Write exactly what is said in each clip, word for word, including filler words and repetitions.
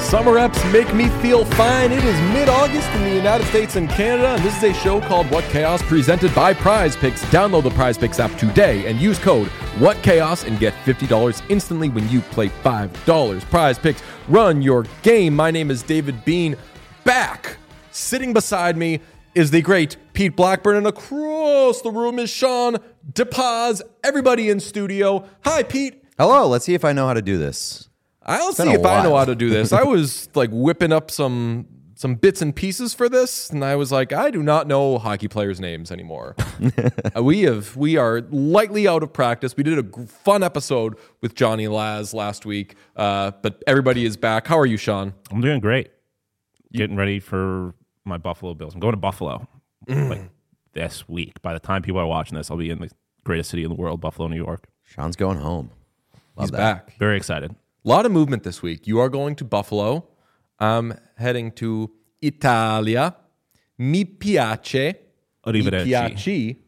Summer reps make me feel fine. It is mid-August in the United States and Canada, and this is a show called What Chaos, presented by Prize Picks. Download the Prize Picks app today and use code WhatChaos and get fifty dollars instantly when you play five dollars. Prize Picks, run your game. My name is David Bean. Back, sitting beside me, is the great Pete Blackburn, and across the room is Sean DePaz. Everybody in studio. Hi, Pete. Hello, let's see if I know how to do this. I'll see if I know how to do this. I was like whipping up some some bits and pieces for this, and I was like, I do not know hockey players' names anymore. uh, we have we are lightly out of practice. We did a g- fun episode with Johnny Laz last week, uh, but everybody is back. How are you, Sean? I'm doing great. Getting ready for my Buffalo Bills. I'm going to Buffalo mm. like this week. By the time people are watching this, I'll be in the greatest city in the world, Buffalo, New York. Sean's going home. Love He's that. back. Very excited. A lot of movement this week. You are going to Buffalo. I'm heading to Italia. Mi piace. Arrivederci. Mi piace.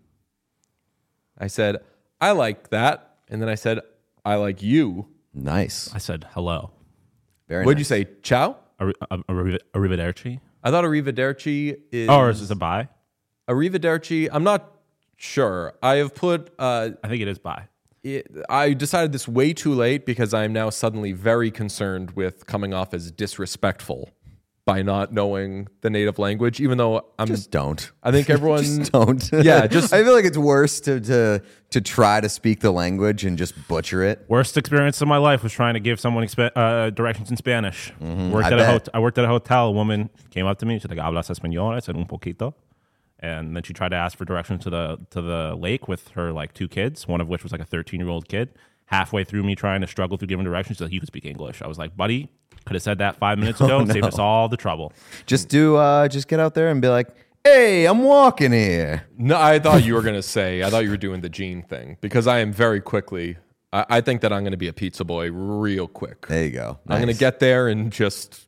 I said, I like that. And then I said, I like you. Nice. I said hello. Very What'd nice. you say? Ciao? Arri- arri- Arrivederci? I thought arrivederci is... Oh, or is this a bye? Arrivederci, I'm not sure. I have put... Uh, I think it is bye. it, I decided this way too late because I am now suddenly very concerned with coming off as disrespectful by not knowing the native language, even though I'm... Just don't. I think everyone... just don't. Yeah, just... I feel like it's worse to, to to try to speak the language and just butcher it. Worst experience of my life was trying to give someone exp- uh, directions in Spanish. Mm-hmm, worked I at bet. a hot- I worked at a hotel. A woman came up to me. She's like, "Hablas español?" I said, "Un poquito." And then she tried to ask for directions to the to the lake with her like two kids, one of which was like a thirteen-year-old kid. Halfway through me trying to struggle through giving directions, she's like, "You can speak English." I was like, "Buddy, could have said that five minutes ago Oh, and no. saved us all the trouble." Just do. Uh, just get out there and be like, "Hey, I'm walking here." No, I thought you were going to say, I thought you were doing the Gene thing, because I am very quickly... I, I think that I'm going to be a pizza boy real quick. There you go. I'm going to Nice. get there and just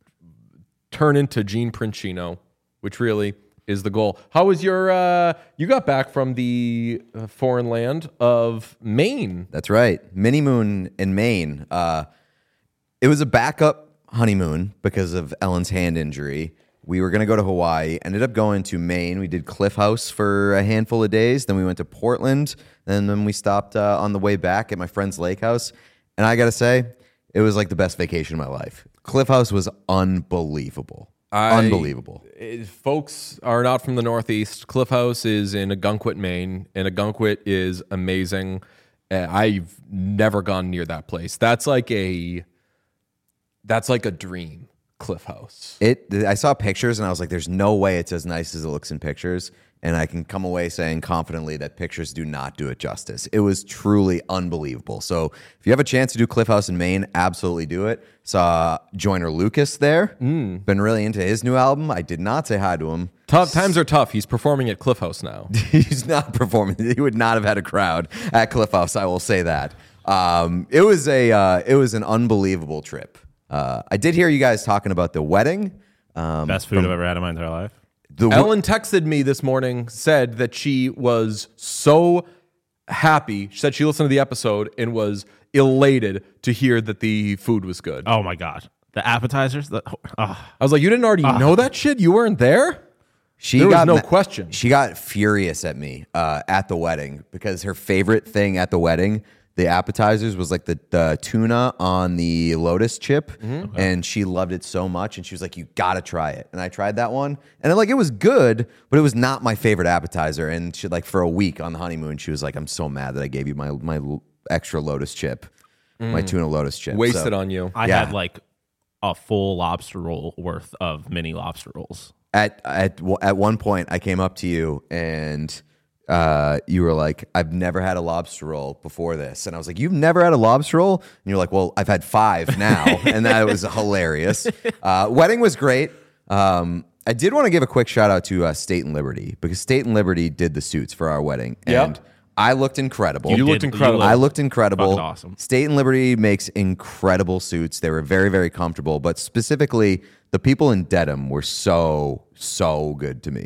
turn into Gene Princino, which really is the goal. How was your, uh, you got back from the uh, foreign land of Maine. That's right. Mini moon in Maine. Uh, it was a backup honeymoon because of Ellen's hand injury. We were going to go to Hawaii, ended up going to Maine. We did Cliff House for a handful of days. Then we went to Portland. And then we stopped uh, on the way back at my friend's lake house. And I got to say, it was like the best vacation of my life. Cliff House was unbelievable. I- unbelievable. If folks are not from the Northeast, Cliff House is in Agunquit, Maine, and Agunquit is amazing. Uh, I've never gone near that place. That's like a, that's like a dream, Cliff House. It. I saw pictures and I was like, "There's no way it's as nice as it looks in pictures." And I can come away saying confidently that pictures do not do it justice. It was truly unbelievable. So if you have a chance to do Cliff House in Maine, absolutely do it. Saw Joyner Lucas there. Mm. Been really into his new album. I did not say hi to him. Tough times are tough. He's performing at Cliff House now. He's not performing. He would not have had a crowd at Cliff House. I will say that. Um, it was a. Uh, it was an unbelievable trip. Uh, I did hear you guys talking about the wedding. Um, Best food I've ever had in my entire life. the Ellen texted me this morning, said that she was so happy. She said she listened to the episode and was elated to hear that the food was good. Oh my god, the appetizers. The, oh. I was like, you didn't already know that shit? You weren't there? She There was got no ma- question. She got furious at me uh, at the wedding because her favorite thing at the wedding, the appetizers, was like the, the tuna on the lotus chip, Mm-hmm. and she loved it so much. And she was like, "You gotta try it." And I tried that one, and like it was good, but it was not my favorite appetizer. And she like for a week on the honeymoon, she was like, "I'm so mad that I gave you my my l- extra lotus chip, my tuna lotus chip, Wasted So- on you. I Yeah. had like a full lobster roll worth of mini lobster rolls. At at at one point, I came up to you and uh, you were like, "I've never had a lobster roll before this," and I was like, "You've never had a lobster roll?" And you're like, "Well, I've had five now," and that was hilarious. Uh, wedding was great. Um, I did want to give a quick shout out to uh, State and Liberty because State and Liberty did the suits for our wedding, Yep. and I looked incredible. You looked did- incredible. I looked incredible. Fucking awesome. State and Liberty makes incredible suits. They were very, very comfortable, but specifically, the people in Dedham were so, so good to me.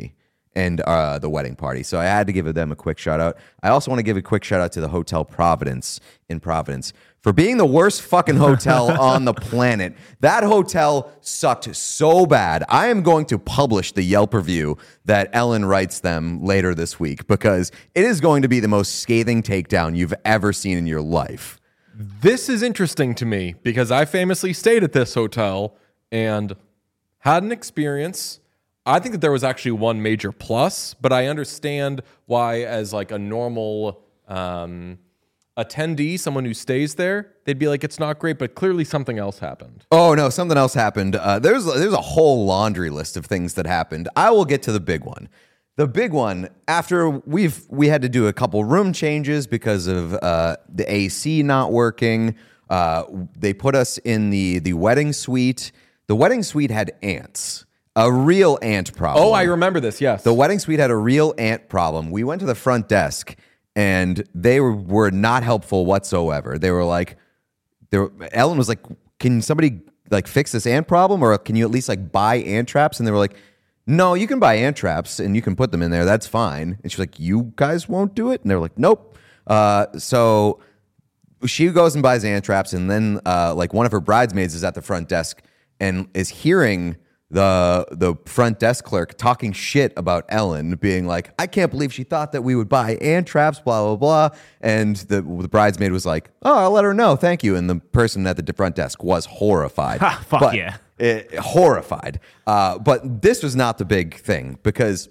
and uh, the wedding party. So I had to give them a quick shout out. I also want to give a quick shout out to the Hotel Providence in Providence for being the worst fucking hotel on the planet. That hotel sucked so bad. I am going to publish the Yelp review that Ellen writes them later this week because it is going to be the most scathing takedown you've ever seen in your life. This is interesting to me because I famously stayed at this hotel and had an experience. I think that there was actually one major plus, but I understand why, as like a normal um, attendee, someone who stays there, they'd be like, it's not great, but clearly something else happened. Oh no, something else happened. Uh, there's there's a whole laundry list of things that happened. I will get to the big one. The big one, after we've we had to do a couple room changes because of uh, the A C not working. Uh, they put us in the the wedding suite. The wedding suite had ants. A real ant problem. Oh, I remember this, yes. The wedding suite had a real ant problem. We went to the front desk, and they were, were not helpful whatsoever. They were like, they were, Ellen was like, can somebody like fix this ant problem, or can you at least like buy ant traps? And they were like, no, you can buy ant traps, and you can put them in there. That's fine. And she's like, you guys won't do it? And they were like, nope. Uh, so she goes and buys ant traps, and then uh, like one of her bridesmaids is at the front desk and is hearing the the front desk clerk talking shit about Ellen, being like, I can't believe she thought that we would buy ant traps, blah, blah, blah. And the, the bridesmaid was like, oh, I'll let her know, thank you. And the person at the front desk was horrified. Ha, fuck but, yeah. It, horrified. Uh, but this was not the big thing, because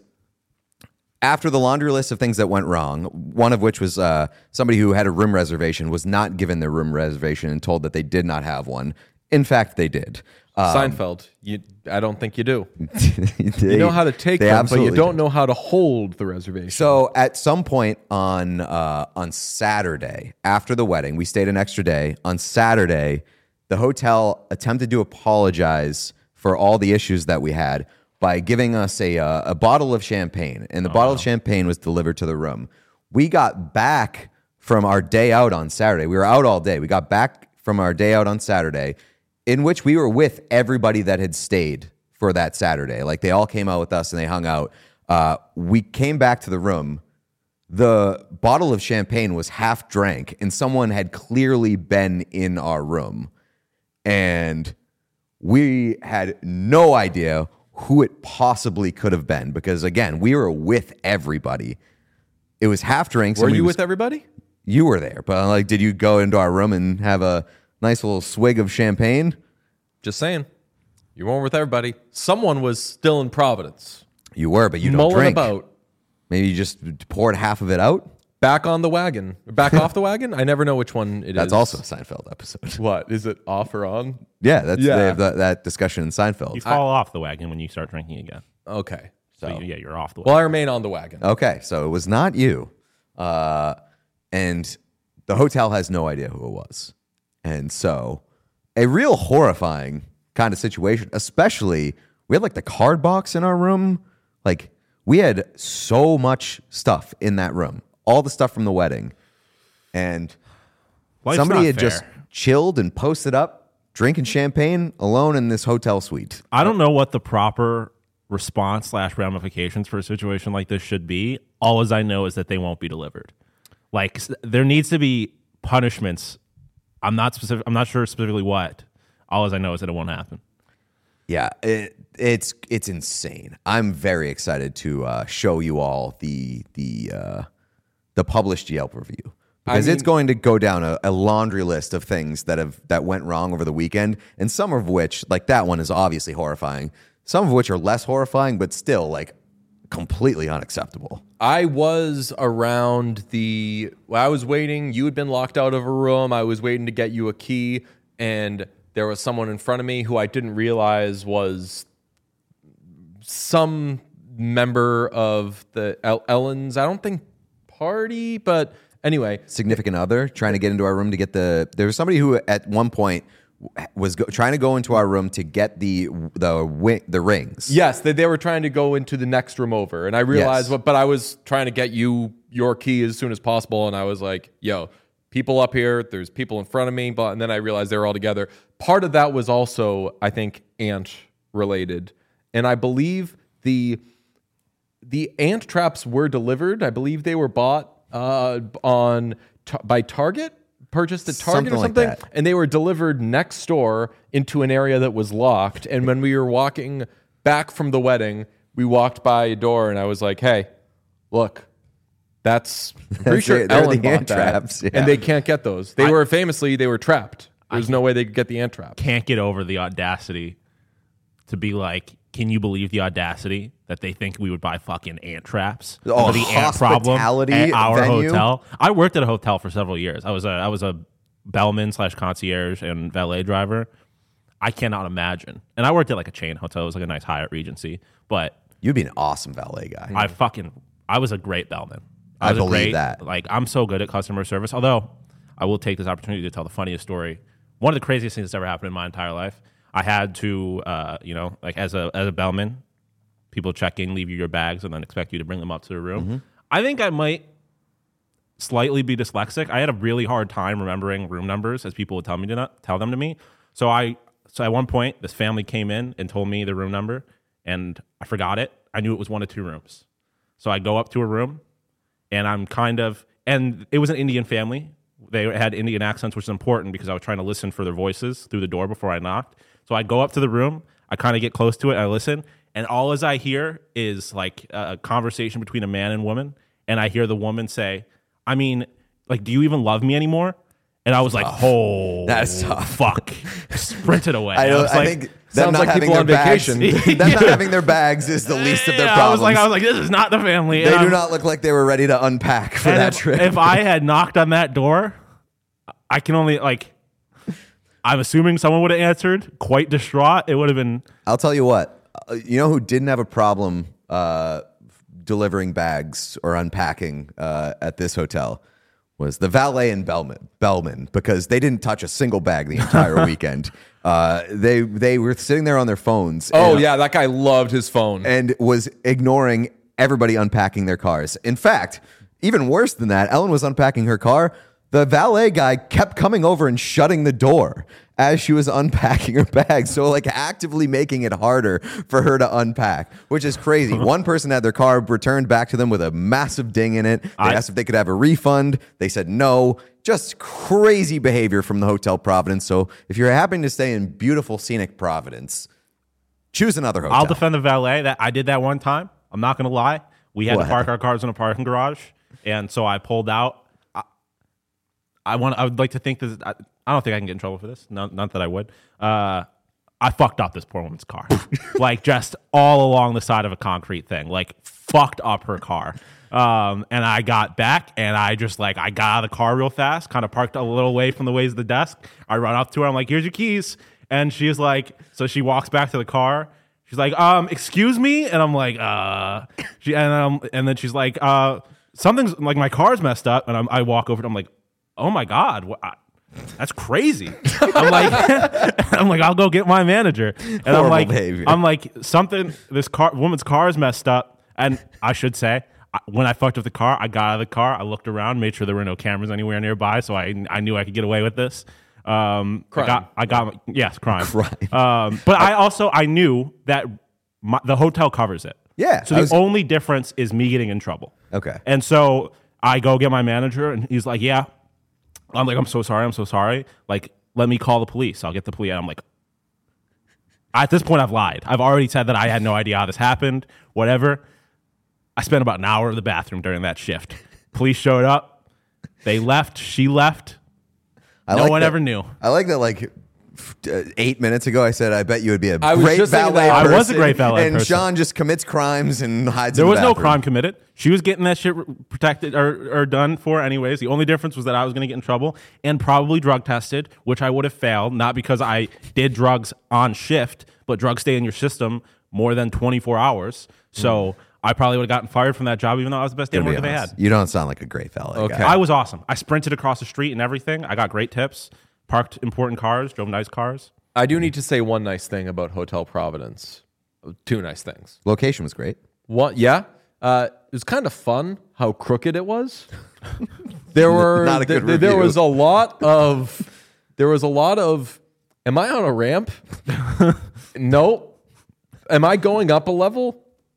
after the laundry list of things that went wrong, one of which was uh, somebody who had a room reservation was not given their room reservation and told that they did not have one. In fact, they did. Um, Seinfeld, you, I don't think you do. they, You know how to take they them, but you absolutely don't do. know how to hold the reservation. So at some point on uh, on Saturday, after the wedding, we stayed an extra day. On Saturday, the hotel attempted to apologize for all the issues that we had by giving us a uh, a bottle of champagne, and the Oh, bottle wow. of champagne was delivered to the room. We got back from our day out on Saturday. We were out all day. We got back from our day out on Saturday, in which we were with everybody that had stayed for that Saturday. Like, they all came out with us and they hung out. Uh, we came back to the room. The bottle of champagne was half drank, and someone had clearly been in our room. And we had no idea who it possibly could have been, because, again, we were with everybody. It was half drinks. Were and we you was- with everybody? You were there, but like, did you go into our room and have a nice little swig of champagne? Just saying. You weren't with everybody. Someone was still in Providence. You were, but you don't mulling drink. about. Maybe you just poured half of it out. Back on the wagon. Back off the wagon? I never know which one it is. That's also a Seinfeld episode. What? Is it off or on? Yeah, that's Yeah. they have that, that discussion in Seinfeld. You fall off the wagon when you start drinking again. Okay. So, you- yeah, you're off the Well, wagon. I remain on the wagon. Okay, so it was not you, uh, and the hotel has no idea who it was, and so a real horrifying kind of situation. Especially, we had like the card box in our room. Like, we had so much stuff in that room, all the stuff from the wedding, and Life's somebody not had fair. just chilled and posted up, drinking champagne alone in this hotel suite. I don't know what the proper response slash ramifications for a situation like this should be. All as I know is that they won't be delivered. Like, s- there needs to be punishments. I'm not specific. I'm not sure specifically what. All as I know is that it won't happen. Yeah, it, it's it's insane. I'm very excited to uh, show you all the the uh, the published Yelp review, because I it's mean- going to go down a, a laundry list of things that have that went wrong over the weekend, and some of which, like that one, is obviously horrifying. Some of which are less horrifying, but still like completely unacceptable. I was around the. Well, I was waiting. You had been locked out of a room. I was waiting to get you a key, and there was someone in front of me who I didn't realize was some member of the El- Ellen's. I don't think party, but anyway. Significant other trying to get into our room to get the. There was somebody who at one point was go, trying to go into our room to get the the wi- the rings. Yes, they, they were trying to go into the next room over, and I realized Yes. what. But I was trying to get you your key as soon as possible, and I was like, "Yo, people up here. There's people in front of me." But and then I realized they were all together. Part of that was also, I think, ant related, and I believe the the ant traps were delivered. I believe they were bought uh, on by Target, purchased at Target Something or something, like that. and they were delivered next door into an area that was locked. And when we were walking back from the wedding, we walked by a door, and I was like, "Hey, look." That's I'm pretty That's sure it. They're Ellen the bought ant that, traps, yeah. and they can't get those. They I- were famously they were trapped. There's no way they could get the ant trap. Can't get over the audacity to be like, can you believe the audacity that they think we would buy fucking ant traps Oh, for the ant problem hospitality at our venue? hotel? I worked at a hotel for several years. I was a I was a bellman slash concierge and valet driver. I cannot imagine. And I worked at like a chain hotel. It was like a nice Hyatt Regency. But You'd be an awesome valet guy. I fucking I was a great bellman. I was a believe great, that. Like, I'm so good at customer service. Although I will take this opportunity to tell the funniest story. One of the craziest things that's ever happened in my entire life. I had to, uh, you know, like as a as a bellman, people check in, leave you your bags, and then expect you to bring them up to the room. Mm-hmm. I think I might slightly be dyslexic. I had a really hard time remembering room numbers as people would tell me to not, tell them to me. So I so at one point, this family came in and told me the room number, and I forgot it. I knew it was one of two rooms. So I go up to a room. And I'm kind of, and it was an Indian family. They had Indian accents, which is important because I was trying to listen for their voices through the door before I knocked. So I go up to the room, I kind of get close to it, I listen, and all as I hear is like a conversation between a man and woman. And I hear the woman say, I mean, like, do you even love me anymore? And I was like, oh, That's tough. fuck. Sprinted away. I, don't, was I like, think them sounds not like having people their on bags, vacation. them not having their bags is the least of their yeah, problems. I was like, I was like, this is not the family. they And do I'm- not look like they were ready to unpack for And that if, trip. if I had knocked on that door, I can only like. I'm assuming someone would have answered, quite distraught. It would have been. I'll tell you what. uh, You know who didn't have a problem uh, delivering bags or unpacking uh, at this hotel was the valet in Bellman, Bellman, because they didn't touch a single bag the entire weekend. Uh, they they were sitting there on their phones. Oh and, yeah, that guy loved his phone. and was ignoring everybody unpacking their cars. In fact, even worse than that, Ellen was unpacking her car. The valet guy kept coming over and shutting the door as she was unpacking her bag. So, like, actively making it harder for her to unpack, which is crazy. One person had their car returned back to them with a massive ding in it. They I- asked if they could have a refund. They said no. Just crazy behavior from the Hotel Providence. So, if you're happening to stay in beautiful, scenic Providence, choose another hotel. I'll defend the valet. That I did that one time. I'm not going to lie. We had What? to park our cars in a parking garage, and so I pulled out. I, I want. I would like to think this. I, I don't think I can get in trouble for this. Not, not that I would. Uh, I fucked up this poor woman's car, like just all along the side of a concrete thing, like fucked up her car. Um, and I got back, and I just like I got out of the car real fast, kind of parked a little away from the ways of the desk. I run up to her. I'm like, "Here's your keys," and she's like, so she walks back to the car. She's like, um, excuse me, and I'm like, uh, she and um, and then she's like, uh, something's like my car's messed up, and I'm, I walk over, and I'm like, oh my god, what, I, that's crazy. I'm like, I'm like, I'll go get my manager, and I'm Horrible like, behavior. I'm like, something, this car, woman's car is messed up, and I should say, I, when I fucked up the car, I got out of the car, I looked around, made sure there were no cameras anywhere nearby, so I I knew I could get away with this. Um, Crime. I got, I got, yes, crime. Crime. Um, but I also I knew that my, the hotel covers it. Yeah, So I the was- only difference is me getting in trouble. Okay. And so I go get my manager, and he's like, "Yeah." I'm like, "I'm so sorry. I'm so sorry. Like, let me call the police. I'll get the police." And I'm like, at this point, I've lied. I've already said that I had no idea how this happened. Whatever. I spent about an hour in the bathroom during that shift. Police showed up. They left. She left. I No like one that- ever knew. I like that, like, f- uh, eight minutes ago, I said, I bet you would be a I was great just thinking valet that. I person. was a great valet and person. Sean just commits crimes and hides There in the was no bathroom. crime committed. She was getting that shit protected or, or done for anyways. The only difference was that I was going to get in trouble and probably drug tested, which I would have failed, not because I did drugs on shift, but drugs stay in your system more than twenty-four hours. So I probably would have gotten fired from that job, even though I was the best day To be worker they honest. had. You don't sound like a great valet Okay. guy. I was awesome. I sprinted across the street and everything. I got great tips, parked important cars, drove nice cars. I do need to say one nice thing about Hotel Providence. Two nice things. Location was great. One, yeah, uh, it was kind of fun how crooked it was. There were Not a good th- there review. was a lot of there was a lot of. Am I on a ramp? No. Am I going up a level?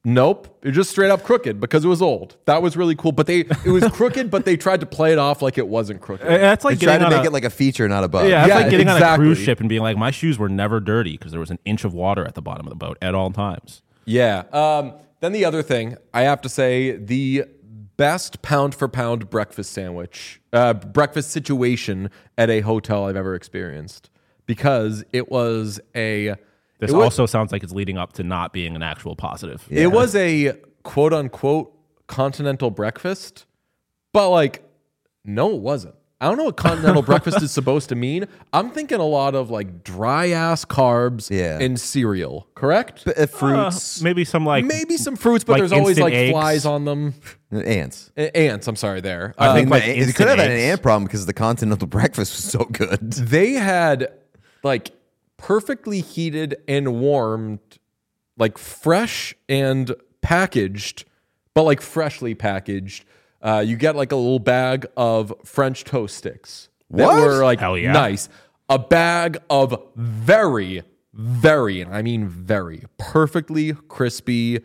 Nope, it was just straight up crooked because it was old. That was really cool. But they it was crooked, but they tried to play it off like it wasn't crooked. Uh, That's like They tried getting to on make a, it like a feature, not a bug. yeah, that's Yeah, like getting on a exactly. cruise ship and being like, my shoes were never dirty because there was an inch of water at the bottom of the boat at all times. Yeah. Um, then the other thing, I have to say, the best pound for pound breakfast sandwich, uh, breakfast situation at a hotel I've ever experienced, because it was a. This it was, also sounds like it's leading up to not being an actual positive. It was a quote unquote continental breakfast, but like, no, it wasn't. I don't know what continental breakfast is supposed to mean. I'm thinking a lot of like dry ass carbs Yeah. and cereal, correct? Uh, fruits, Uh, maybe some like Maybe some fruits, but like there's always instant like eggs. flies on them. ants. A- Ants, I'm sorry, there. I Uh, think I like mean, it instant could have had an eggs. ant problem because the continental breakfast was so good. they had like perfectly heated and warmed, like fresh and packaged, but like freshly packaged. Uh, you get like a little bag of French toast sticks that What? were like Hell yeah. nice. A bag of very, very, and I mean very, perfectly crispy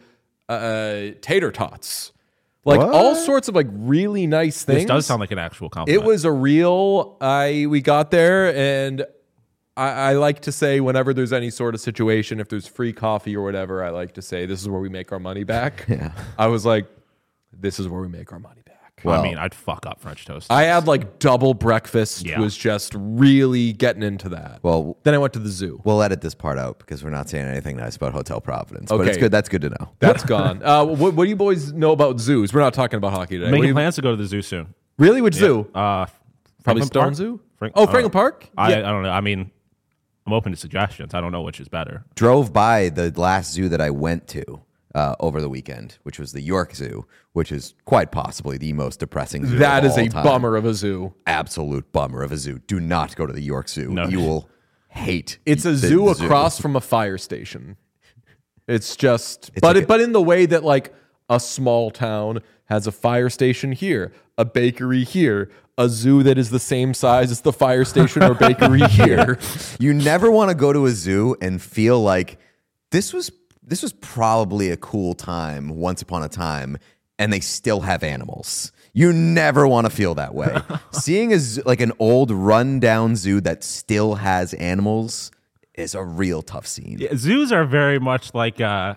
uh, tater tots. Like What? all sorts of like really nice things. This does sound like an actual compliment. It was a real. I we got there, and I, I like to say whenever there's any sort of situation, if there's free coffee or whatever, I like to say this is where we make our money back. Yeah. I was like, this is where we make our money back. Well, I Well- mean, I'd fuck up French toast. I had like double breakfast. Yeah. Was just really getting into that. Well, Then I went to the zoo. we'll edit this part out because we're not saying anything nice about Hotel Providence. But Okay. it's good. That's good to know. That's gone. Uh, what, what do you boys know about zoos? We're not talking about hockey today. What do Making you- plans to go to the zoo soon. Really? Which zoo? Uh, Probably Franklin Stone Park? Zoo. Frank- oh, I Franklin don't know. Park. I, Yeah. I don't know. I mean, I'm open to suggestions. I don't know which is better. Drove by the last zoo that I went to uh, over the weekend, which was the York Zoo, which is quite possibly the most depressing zoo. That of is all a time. bummer of a zoo. Absolute bummer of a zoo. Do not go to the York Zoo. No. You will hate. It's a the- zoo the across from a fire station. It's just, It's but like it, but in the way that like a small town has a fire station here, a bakery here, a zoo that is the same size as the fire station or bakery here. You never want to go to a zoo and feel like this was this was probably a cool time once upon a time, and they still have animals. You never want to feel that way. Seeing a zoo, like an old rundown zoo that still has animals is a real tough scene. Yeah, zoos are very much like uh,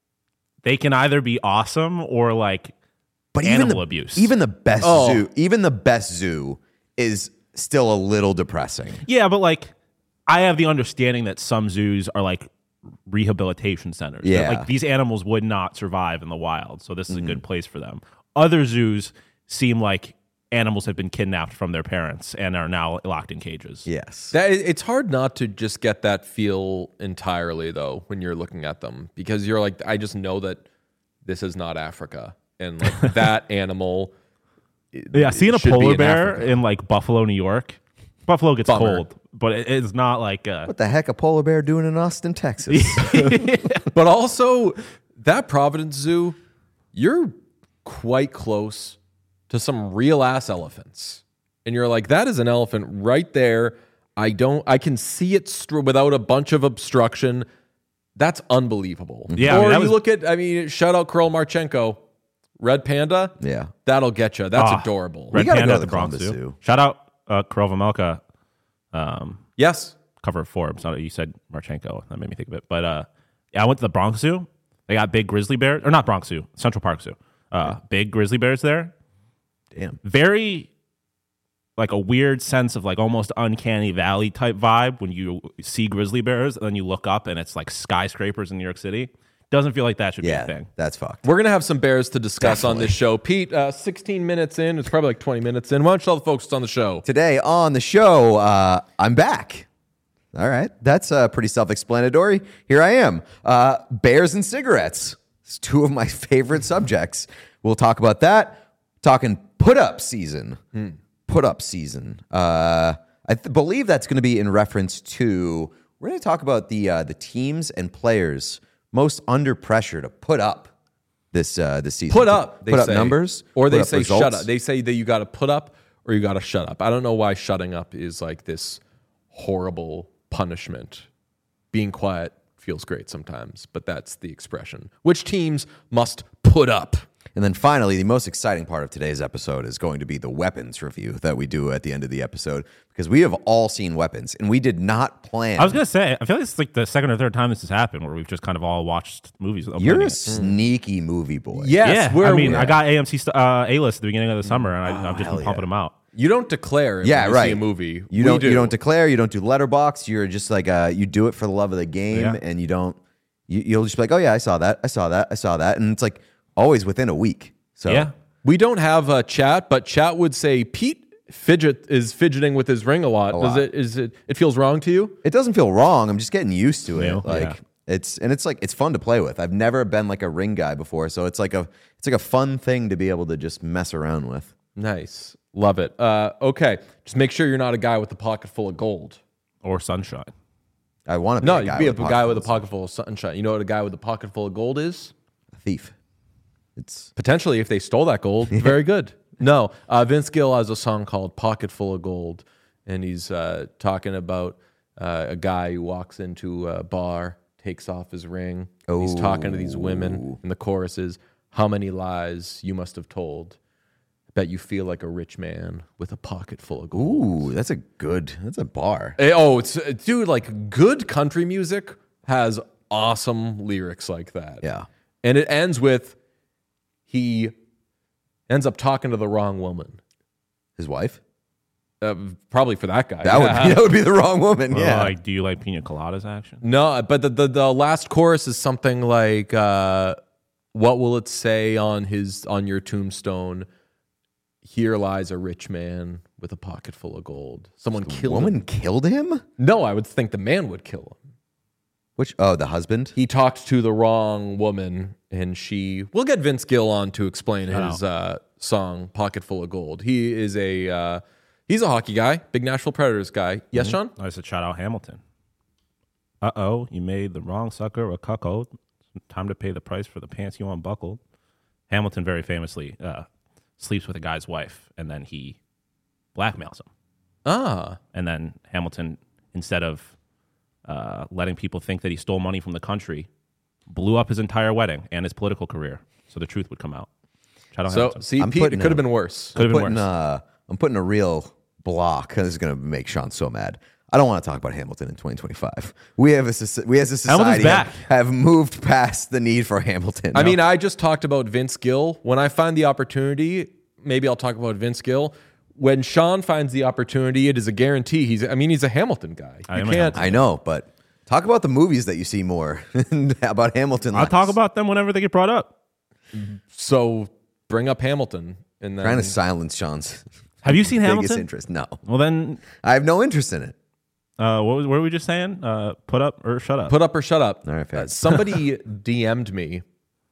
they can either be awesome or like But even animal the, abuse. even the best Oh. zoo, even the best zoo is still a little depressing. yeah, but like I have the understanding that some zoos are like rehabilitation centers. That, Yeah. like these animals would not survive in the wild, so this is a good place for them. Other zoos seem like animals have been kidnapped from their parents and are now locked in cages. Yes. That it's hard not to just get that feel entirely though when you're looking at them, because you're like, I just know that this is not Africa, and like that animal. Yeah, seeing a should be polar in bear Africa. in like Buffalo, New York. Buffalo gets Bummer. cold, but it, it's not like uh, What the heck a polar bear doing in Austin, Texas? But also, that Providence Zoo, you're quite close to some real ass elephants. And you're like, that is an elephant right there. I don't, I can see it str- without a bunch of obstruction. That's unbelievable. Yeah, I Or mean, that you was- look at, I mean, shout out Curl Marchenko, Red Panda. Yeah. That'll get you. That's Ah, adorable. Red gotta Panda go at to the the Bronx Columbus Zoo. Zoo. Shout out uh, Karel Vejmelka, um, Yes. cover of Forbes. I know you said Marchenko. That made me think of it. But uh, yeah, I went to the Bronx Zoo. They got big grizzly bears, or not Bronx Zoo, Central Park Zoo. Uh, big grizzly bears there. Damn. Very like a weird sense of like almost uncanny valley type vibe when you see grizzly bears and then you look up and it's like skyscrapers in New York City. Doesn't feel like that should Yeah, be a thing. that's fucked. We're going to have some bears to discuss on Definitely. this show. Pete, uh, sixteen minutes in. It's probably like twenty minutes in. Why don't you tell the folks what's on the show? Today on the show, uh, I'm back. All right. That's uh, pretty self explanatory. Here I am. Uh, bears and cigarettes. It's two of my favorite subjects. We'll talk about that. Talking put up season. Put up season. Uh, I th- believe that's going to be in reference to, we're going to talk about the, uh, the teams and players most under pressure to put up this, uh, this season. Put up, they put up say. numbers. Or they put up say results. shut up. They say that you got to put up or you got to shut up. I don't know why shutting up is like this horrible punishment. Being quiet feels great sometimes, but that's the expression. Which teams must put up? And then finally, the most exciting part of today's episode is going to be the weapons review that we do at the end of the episode, because we have all seen Weapons, and we did not plan. I was gonna say, I feel like it's like the second or third time this has happened where we've just kind of all watched movies. You're a sneaky movie boy. Yes, yeah. I mean, we're- I got A M C st- uh, A-list at the beginning of the summer, and I, I've just hell been pumping yeah. them out. You don't declare Yeah, when you right. see a movie. You We don't. do. You don't declare. You don't do letterbox. You're just like uh, you do it for the love of the game, Yeah. and you don't. You, you'll just be like, oh yeah, I saw that. I saw that. I saw that, and it's like always within a week. So Yeah. We don't have a chat, but chat would say Pete fidget is fidgeting with his ring a lot. Does lot. it? Is it? It feels wrong to you? it doesn't feel wrong. I'm just getting used to it. Yeah. Like Yeah. it's and it's like it's fun to play with. I've never been like a ring guy before, so it's like a it's like a fun thing to be able to just mess around with. Nice, love it. Uh, okay, just make sure you're not a guy with a pocket full of gold. Or Sunshine. I want to be No, a guy you'd be a with guy with a full pocket full of sunshine. You know what a guy with a pocket full of gold is? of- thief. It's Potentially, if they stole that gold, very good. No, uh, Vince Gill has a song called "Pocket Full of Gold," and he's uh, talking about uh, a guy who walks into a bar, takes off his ring. and He's talking to these women, and the chorus is, "How many lies you must have told? I bet you feel like a rich man with a pocket full of gold." ooh, that's a good. That's a bar. Eh, oh, it's uh, dude, like good country music has awesome lyrics like that. Yeah. and it ends with he ends up talking to the wrong woman. His wife. Uh, probably for that guy. That would Yeah. be, that would be the wrong woman. Or Yeah. like, do you like pina coladas action? No, but the, the the last chorus is something like, uh, "What will it say on his on your tombstone? Here lies a rich man with a pocket full of gold." Someone killed woman him. killed him. No, I would think the man would kill him. Which oh, the husband. He talked to the wrong woman, and she. We'll get Vince Gill on to explain his uh, song "Pocket Full of Gold." He is a uh, he's a hockey guy, big Nashville Predators guy. Yes, Sean. I said shout out Hamilton. Uh oh, you made the wrong sucker a cuckold. Time to pay the price for the pants you unbuckled. Hamilton very famously uh, sleeps with a guy's wife, and then he blackmails him. Ah, And then Hamilton, instead of uh, letting people think that he stole money from the country, blew up his entire wedding and his political career, so the truth would come out. Shout out so Hamilton. see, I'm Pete, it putting could have a- been worse. Could have been putting, worse. uh, I'm putting a real block. This is going to make Sean so mad. I don't want to talk about Hamilton in twenty twenty-five. We have a soci- we as a society Hamilton's back. have, have moved past the need for Hamilton. I mean, I just talked about Vince Gill. When I find the opportunity, maybe I'll talk about Vince Gill. When Sean finds the opportunity, it is a guarantee. He's, I mean, he's a Hamilton guy. I You am a can't. I know, but talk about the movies that you see more about Hamilton. I'll less. talk about them whenever they get brought up. So bring up Hamilton, and then trying to silence Sean's Have you seen biggest Hamilton? interest. No, Well, then, I have no interest in it. uh, what, was, what were we just saying? Uh, put up or shut up? put up or shut up. All right, fair. Uh, somebody D M'd me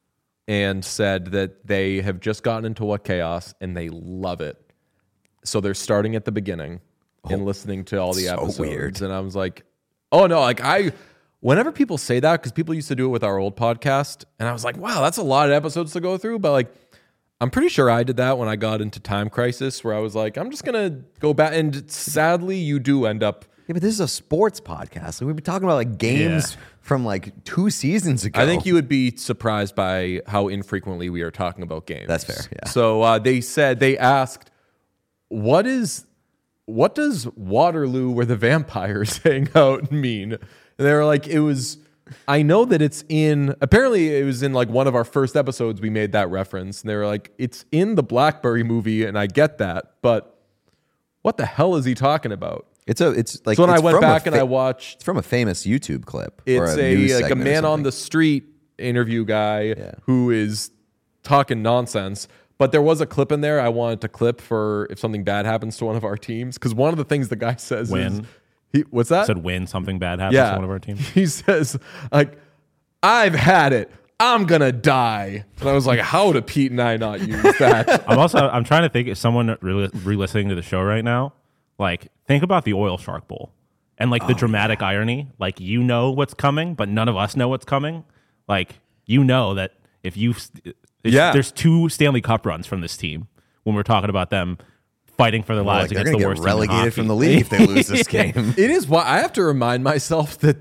and said that they have just gotten into What Chaos and they love it. So they're starting at the beginning and listening to all the so episodes. weird. And I was like, oh no, like I, whenever people say that, because people used to do it with our old podcast, and I was like, wow, that's a lot of episodes to go through. But like, I'm pretty sure I did that when I got into Time Crisis, where I was like, I'm just gonna go back. And sadly, you do end up. Yeah, but this is a sports podcast. Like, we've been talking about like games Yeah. from like two seasons ago. I think you would be surprised by how infrequently we are talking about games. That's fair, yeah. So uh, they said they asked, "What is, what does Waterloo, where the vampires hang out, mean?" And they were like, "It was." I know that it's in. Apparently, it was in like one of our first episodes. We made that reference, and they were like, "It's in the Blackberry movie," and I get that, but what the hell is he talking about? It's a. It's like. So when I it's went from a back and fa- I watched. It's from a famous YouTube clip. or It's a, a, news like a segment or man on something. the street interview guy who is talking nonsense. But there was a clip in there I wanted to clip for if something bad happens to one of our teams. Because one of the things the guy says is, When? he, what's that? Said when something bad happens yeah. to one of our teams. He says, like, I've had it. I'm going to die. And I was like, how do Pete and I not use that? I'm also I'm trying to think if someone re- re-listening to the show right now, like think about the oil shark bowl and like the dramatic irony, like you know what's coming, but none of us know what's coming. Like you know that if you it's, Yeah. there's two Stanley Cup runs from this team when we're talking about them fighting for their Like, lives they're against gonna the get worst team in relegated hockey. from the league if they lose this game. It is why I have to remind myself that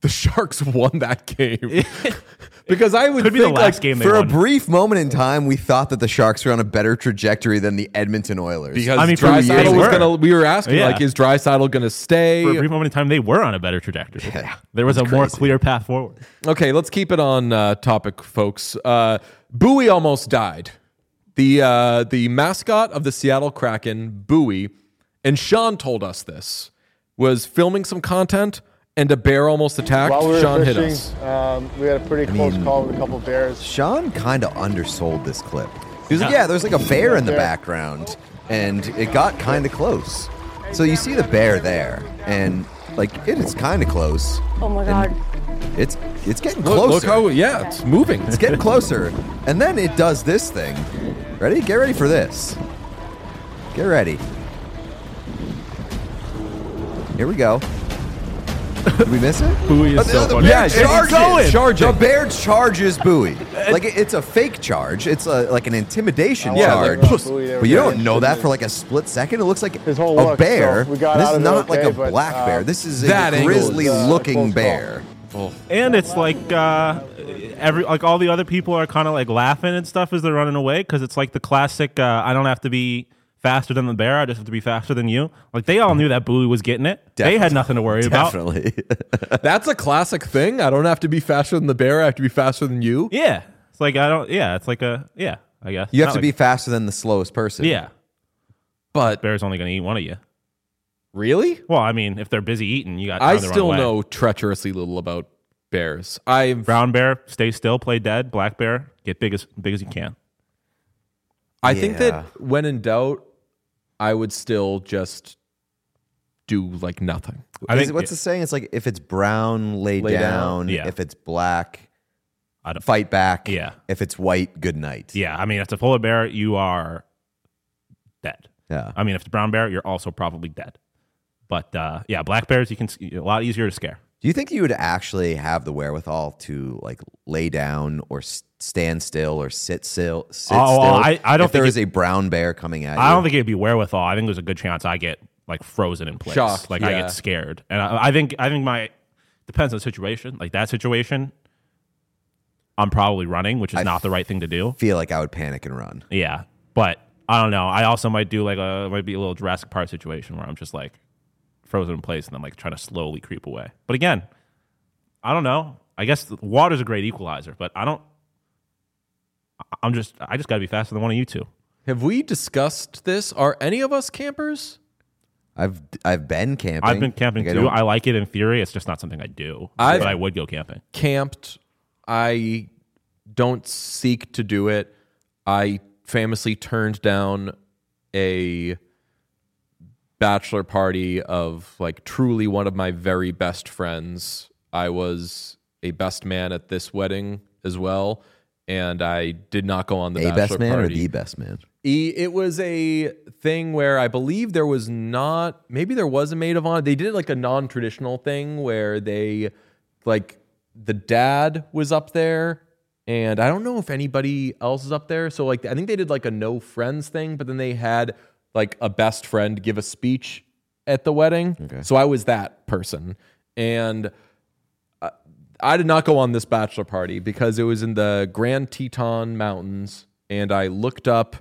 the Sharks won that game. Because I would Could be think the last like, game they For a won. brief moment in time, we thought that the Sharks were on a better trajectory than the Edmonton Oilers. because I mean, for Draisaitl years- was they were. gonna. We were asking Yeah. like, is Draisaitl gonna stay? For a brief moment in time, they were on a better trajectory. Yeah, there was a that's more crazy. clear path forward. Okay, let's keep it on uh, topic, folks. Uh, Bowie almost died. The uh, the mascot of the Seattle Kraken, Bowie, and Sean told us this, was filming some content and a bear almost attacked. While we were Sean fishing, hit us. Um, we had a pretty close mean- call with a couple bears. Sean kind of undersold this clip. He was like, Yeah. yeah, there's like a bear in the Bear. background, and it got kind of close. So you see the bear there, and like it is kind of close. Oh my And god. It's it's getting Look, closer. look how yeah, it's moving. It's getting closer. And then it does this thing. Ready? Get ready for this. Get ready. Here we go. Did we miss it? Bowie is Oh, so the, the funny. bear Yeah, it's charges. going. Charging. The bear charges Bowie. Like it- it's a fake charge. It's a, like an intimidation Yeah, charge. like, Bowie, they were but you don't getting know that into for like a split second. It looks like his whole a look, bear. so we got And this out is of it not like okay, a but, black uh, bear. This is that a angle is, grizzly uh, looking close call. bear. And it's like uh, every like all the other people are kind of like laughing and stuff as they're running away because it's like the classic. Uh, I don't have to be faster than the bear. I just have to be faster than you. Like they all knew that Bowie was getting it. They had nothing to worry about. Definitely. That's a classic thing. I don't have to be faster than the bear. I have to be faster than you. Yeah, it's like I don't. Yeah, it's like a yeah. I guess You have Not to like- be faster than the slowest person. Yeah, But bear's only going to eat one of you. really, Well, I mean, if they're busy eating, you got. I time to run still away. know treacherously little about bears. I've Brown bear, stay still, play dead. Black bear, get big as big as you can. I think Yeah. that when in doubt, I would still just do like nothing. I Is think it- what's the saying? It's like if it's brown, lay, Lay down. down. Yeah. If it's black, I don't, fight back. Yeah. If it's white, good night. Yeah, I mean, if it's a polar bear, you are dead. Yeah. I mean, if it's a brown bear, you're also probably dead. But uh, yeah, black bears, you can a lot easier to scare. Do you think you would actually have the wherewithal to like lay down or s- stand still or sit still? Sit Oh, still well, I- I don't if there think is a brown bear coming at you. I don't think it'd be wherewithal. I think there's a good chance I get like frozen in place. Shocked, like I yeah. get scared, and I, I think I think my depends on the situation. Like that situation, I'm probably running, which is I not the right thing to do. feel like I would panic and run. Yeah, but I don't know. I also might do like a might be a little Jurassic Park situation where I'm just like frozen in place and I'm like trying to slowly creep away. But again, I don't know. I guess the water's a great equalizer, but I don't. I- I'm just I just got to be faster than one of you two. Have we discussed this? Are any of us campers? I've I've been camping. I've been camping Like, I too. don't- I like it in theory. It's just not something I do. I've- but I would go camping. Camped. I don't seek to do it. I famously turned down a bachelor party of like truly one of my very best friends. I was a best man at this wedding as well, and I did not go on the a bachelor best man party. or the best man. E- It was a thing where I believe there was not, maybe there was a maid of honor. They did like a non-traditional thing where they, like, the dad was up there, and I don't know if anybody else is up there. So, like, I think they did like a no friends thing, but then they had like a best friend give a speech at the wedding. Okay. So I was that person. And I, I did not go on this bachelor party because it was in the Grand Teton Mountains, and I looked up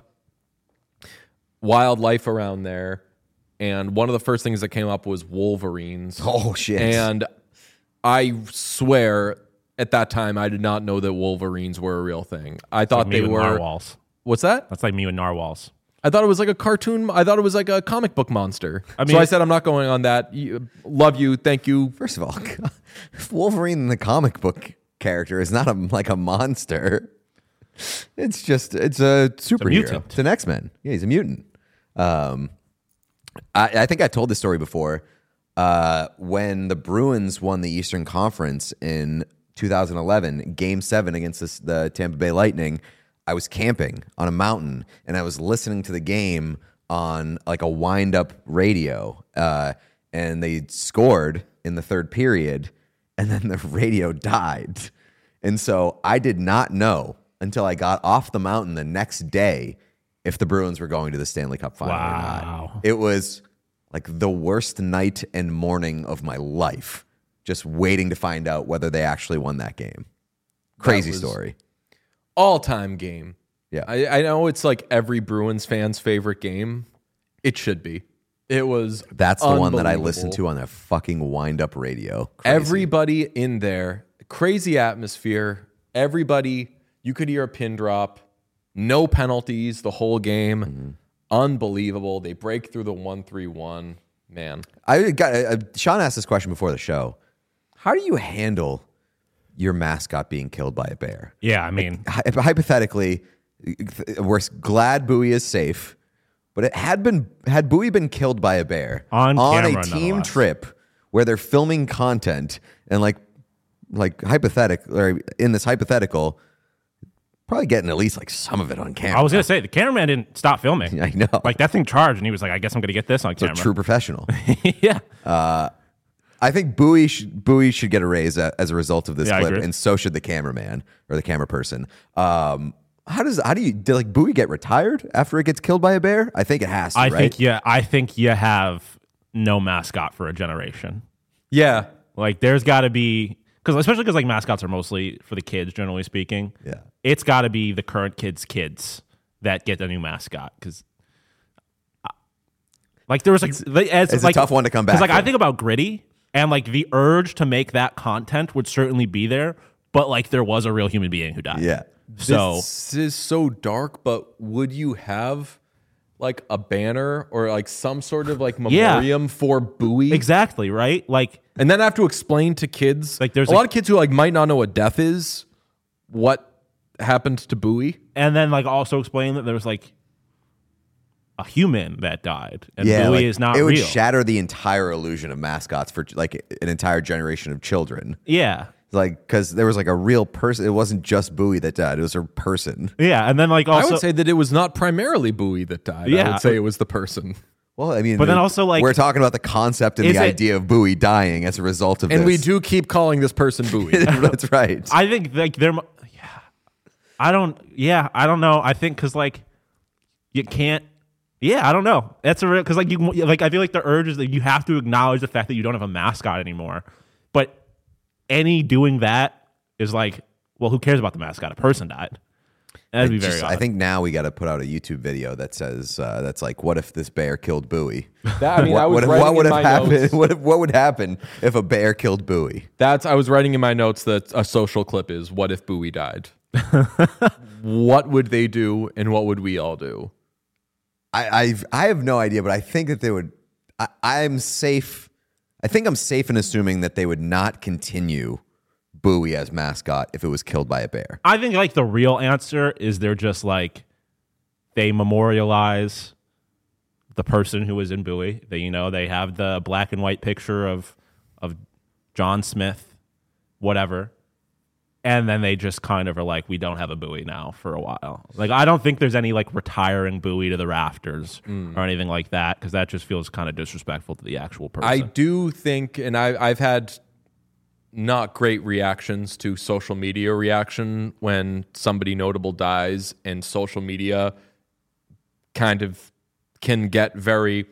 wildlife around there, and one of the first things that came up was wolverines. Oh shit! And I swear at that time I did not know that wolverines were a real thing. I thought Like me they with were narwhals. What's that? That's like me with narwhals. I thought it was like a cartoon. I thought it was like a comic book monster. I so mean- I said I'm not going on that. You, love you, thank you. First of all, Wolverine, the comic book character, is not a like a monster. It's just it's a superhero. mutant. It's an X-Men. Yeah, he's a mutant. Um, I, I think I told this story before. Uh, when the Bruins won the Eastern Conference in two thousand eleven, Game Seven against this, the Tampa Bay Lightning, I was camping on a mountain and I was listening to the game on like a wind-up radio. Uh, and they scored in the third period, and then the radio died. And so I did not know until I got off the mountain the next day if the Bruins were going to the Stanley Cup final or Wow. not. It was like the worst night and morning of my life just waiting to find out whether they actually won that game. Crazy was- story. All-time game. Yeah. I, I know it's like every Bruins fan's favorite game. It should be. It was That's the one that I unbelievable. listened to on that fucking wind-up radio. Crazy. Everybody in there, crazy atmosphere. Everybody, you could hear a pin drop. No penalties the whole game. Mm-hmm. Unbelievable. They break through the one three one. Man. I got uh, Sean asked this question before the show. How do you handle your mascot being killed by a bear? Yeah, I mean, Hy- Hypothetically, we're glad Bowie is safe, but it had been had Bowie been killed by a bear On a camera, team nonetheless. trip where they're filming content and like like hypothetical or in this hypothetical, probably getting at least like some of it on camera. I was gonna say the cameraman didn't stop filming. I know. Like that thing charged, and he was like, "I guess I'm gonna get this on So camera." true professional. yeah. I think Bowie should, Bowie should get a raise a- as a result of this Yeah, I clip, agree. and so should the cameraman or the camera person. Um, how does how do you did like Bowie get retired after it gets killed by a bear? I think it has to. I right? think yeah, I think you have no mascot for a generation. Yeah. Like there's got to be because especially because like mascots are mostly for the kids, generally speaking. Yeah. It's got to be the current kids' kids that get a new mascot because. Like there was like as, it's a like, tough one to come back because like I from. think about Gritty and like the urge to make that content would certainly be there, but like there was a real human being who died. Yeah. So This is so dark, but would you have like a banner or like some sort of like Yeah. memoriam for Bowie? exactly right. Like And then have to explain to kids. Like, there's a like- lot of kids who like might not know what death is, what happened to Bowie. and then like also explain that there was like a human that died and Yeah, Bowie like, is not it would real. shatter the entire illusion of mascots for like an entire generation of children. yeah. Like because there was like a real person. It wasn't just Bowie that died. It was a person. Yeah, and then like I also would say that it was not primarily Bowie that died. I Yeah. would say it was the person. Well, I mean, But then also, like- we're talking about the concept and Is the it- idea of Bowie dying as a result of And this. we do keep calling this person Bowie. That's right. I think like there mu- yeah. I don't yeah, I don't know. I think cuz like you can't yeah, I don't know. That's a real cuz like you like I feel like the urge is that you have to acknowledge the fact that you don't have a mascot anymore. But any doing that is like, well, who cares about the mascot? A person died. And that'd be very Just- odd. I think now we got to put out a YouTube video that says uh, that's like, what if this bear killed Bowie? That- I mean, what, I was what, writing what would in have my happened? notes. What, if- what would happen if a bear killed Bowie? That's I was writing in my notes that a social clip is what if Bowie died? What would they do and what would we all do? I I've, I have no idea, but I think that they would. I, I'm safe. I think I'm safe in assuming that they would not continue Bowie as mascot if it was killed by a bear. I think like the real answer is they're just like they memorialize the person who was in Bowie. They you know they have the black and white picture of of John Smith, whatever, and then they just kind of are like, we don't have a Bowie now for a while. Like I don't think there's any like retiring Bowie to the rafters or anything like that because that just feels kind of disrespectful to the actual person. I do think, and I, I've had not great reactions to social media reaction when somebody notable dies, and social media kind of can get very,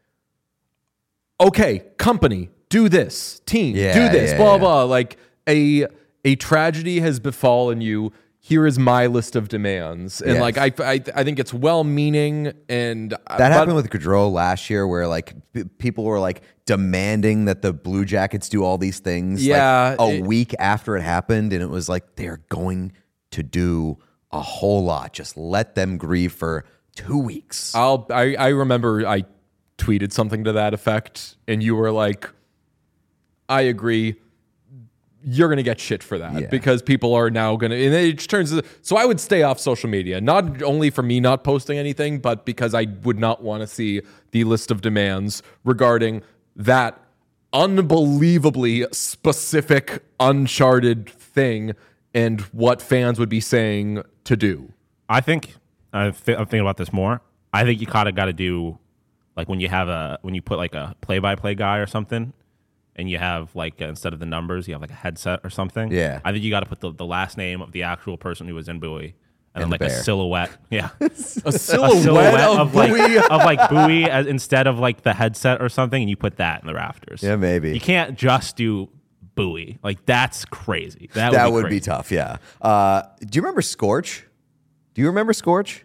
okay, company, do this, team, Yeah, do this, yeah, blah, yeah. blah. Like a a tragedy has befallen you. Here is my list of demands. And Yes. like, I, I, I think it's well-meaning and That happened with Gaudreau last year, where like p- people were like demanding that the Blue Jackets do all these things. Yeah, like, a it- week after it happened, and it was like they're going to do a whole lot. Just let them grieve for two weeks. I'll I, I remember I tweeted something to that effect, and you were like, I agree. You're going to get shit for that Yeah. because people are now going to, and it just turns, so I would stay off social media, not only for me not posting anything, but because I would not want to see the list of demands regarding that unbelievably specific, uncharted thing and what fans would be saying to do. I think I th- I'm thinking about this more. I think you kind of got to do like when you have a when you put like a play-by-play guy or something, and you have like uh, instead of the numbers, you have like a headset or something. Yeah. I think you got to put the, the last name of the actual person who was in Bowie, and, And then the like a bear. silhouette. Yeah, A a silhouette, silhouette of, of like Bowie. of like Bowie as, instead of like the headset or something, and you put that in the rafters. Yeah, maybe. You can't just do buoy. Like, that's crazy. That, That would, be, would crazy. be tough, yeah. Uh, do you remember Scorch? Do you remember Scorch?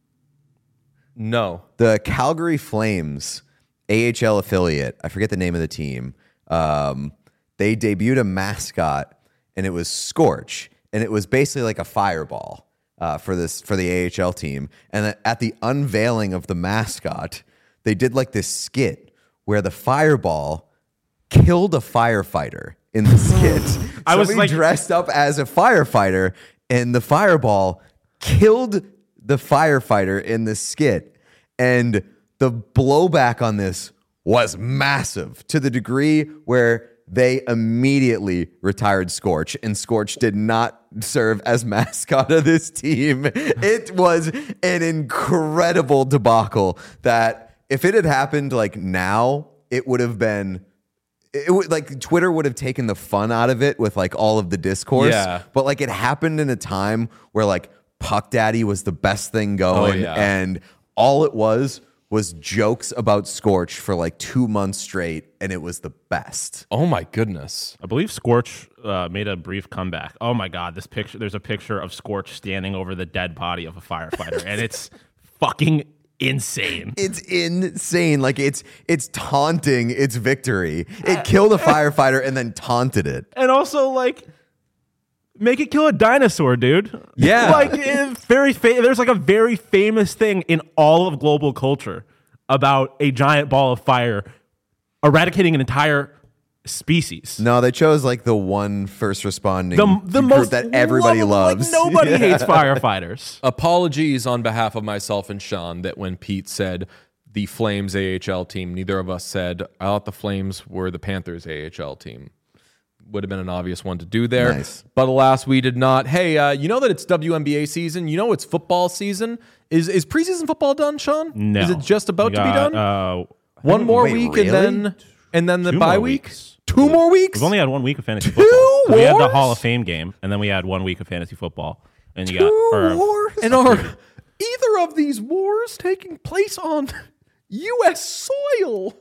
No. The Calgary Flames A H L affiliate, I forget the name of the team, um, they debuted a mascot, and it was Scorch, and it was basically like a fireball uh, for this for the A H L team. And then at the unveiling of the mascot, they did like this skit where the fireball killed a firefighter in the skit. I was Somebody like- dressed up as a firefighter, and the fireball killed the firefighter in the skit. And the blowback on this was massive to the degree where they immediately retired Scorch, and Scorch did not serve as mascot of this team. It was an incredible debacle that if it had happened like now, it would have been it would like Twitter would have taken the fun out of it with like all of the discourse. Yeah. But like it happened in a time where like Puck Daddy was the best thing going, Oh, yeah. and all it was was jokes about Scorch for like two months straight, and it was the best. Oh my goodness. I believe Scorch uh, made a brief comeback. Oh my God, this picture! There's a picture of Scorch standing over the dead body of a firefighter, and it's fucking insane. It's insane. Like it's it's taunting its victory. It killed a firefighter and then taunted it. And also, like, make it kill a dinosaur, dude. Yeah. like it's very. Fa- there's like a very famous thing in all of global culture about a giant ball of fire eradicating an entire species. No, they chose like the one first responding The the group most that everybody lovable- loves. Like, nobody hates firefighters. Apologies on behalf of myself and Sean that when Pete said the Flames A H L team, neither of us said, I thought the Flames were the Panthers A H L team. Would have been an obvious one to do there. Nice. But alas, we did not. Hey, uh, you know that it's W N B A season? You know it's football season? Is is preseason football done, Sean? No, Is it just about We to be got, done? Uh, one more wait, week really? and then and then the Two bye more week? weeks. Two more weeks? We've only had one week of fantasy football. 'Cause we had the wars? Hall of Fame game, and then we had one week of fantasy football, and you Two got or, wars? And are either of these wars taking place on U S soil?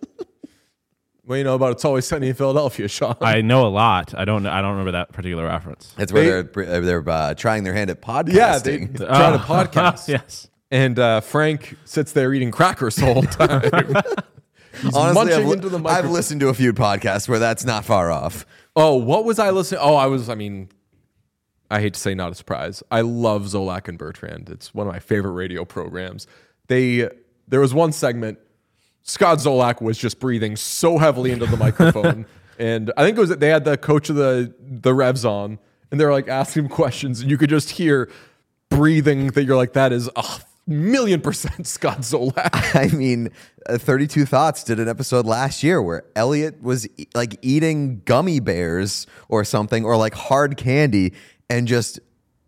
Well, you know about It's Always Sunny in Philadelphia, Sean. I know a lot. I don't. I don't remember that particular reference. That's where They- they're they're uh, trying their hand at podcasting. yeah, they try to Uh, podcast. yes. And uh, Frank sits there eating crackers the whole time. He's Honestly, munching I've, li- into the I've microphone. listened to a few podcasts where that's not far off. Oh, what was I listening? Oh, I was, I mean, I hate to say not a surprise. I love Zolak and Bertrand. It's one of my favorite radio programs. They, there was one segment, Scott Zolak was just breathing so heavily into the microphone. And I think it was that they had the coach of the, the Revs on, and they were like asking him questions, and you could just hear breathing that you're like, that is a million percent Scott Zolak. I mean, uh, thirty-two Thoughts did an episode last year where Elliot was e- like eating gummy bears or something, or like hard candy, and just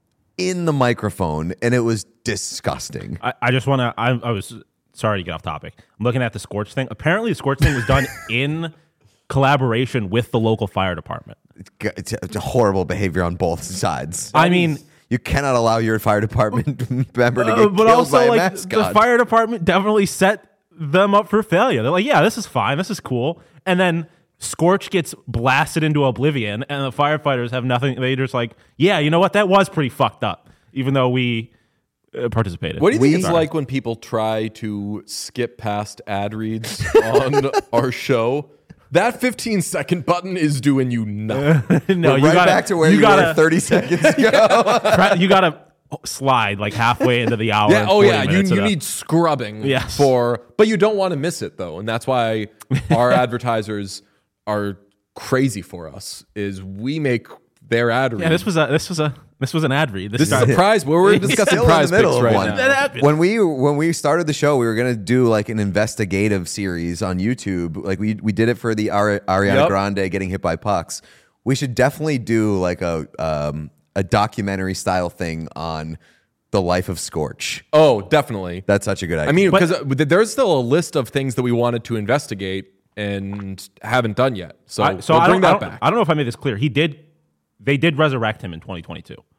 in the microphone, and it was disgusting. I, I just want to. I, I was sorry to get off topic. I'm looking at the Scorch thing. Apparently, the Scorch thing was done in collaboration with the local fire department. It's, g- it's a- it's a horrible behavior on both sides. I mean. You cannot allow your fire department member to get Uh, but killed also, by a like, mascot. the fire department definitely set them up for failure. They're like, yeah, this is fine. This is cool. And then Scorch gets blasted into oblivion, and the firefighters have nothing. They just like, yeah, you know what? That was pretty fucked up, even though we uh, participated. What do you think it's We- like when people try to skip past ad reads on our show? That fifteen second button is doing you nothing. no, We're you right gotta, back to where you, gotta, were thirty seconds ago. tra- you gotta slide like halfway into the hour. Yeah, and oh forty yeah, you, minutes you of that. need scrubbing Yes. for, but you don't want to miss it though, and that's why our advertisers are crazy for us. Is we make their ad read. Yeah, this was a this was a this was an ad read. This, This is started- a prize where we're discussing Still prize in the middle picks of right one. now. That happened. When we when we started the show, we were gonna do like an investigative series on YouTube. Like we we did it for the Ari- Ariana Yep. Grande getting hit by pucks. We should definitely do like a um, a documentary style thing on the life of Scorch. Oh, definitely. That's such a good idea. I mean, But- because there's still a list of things that we wanted to investigate and haven't done yet. So, I, so we'll I bring don't, I that don't- back. I don't know if I made this clear. He did. They did resurrect him in twenty twenty-two.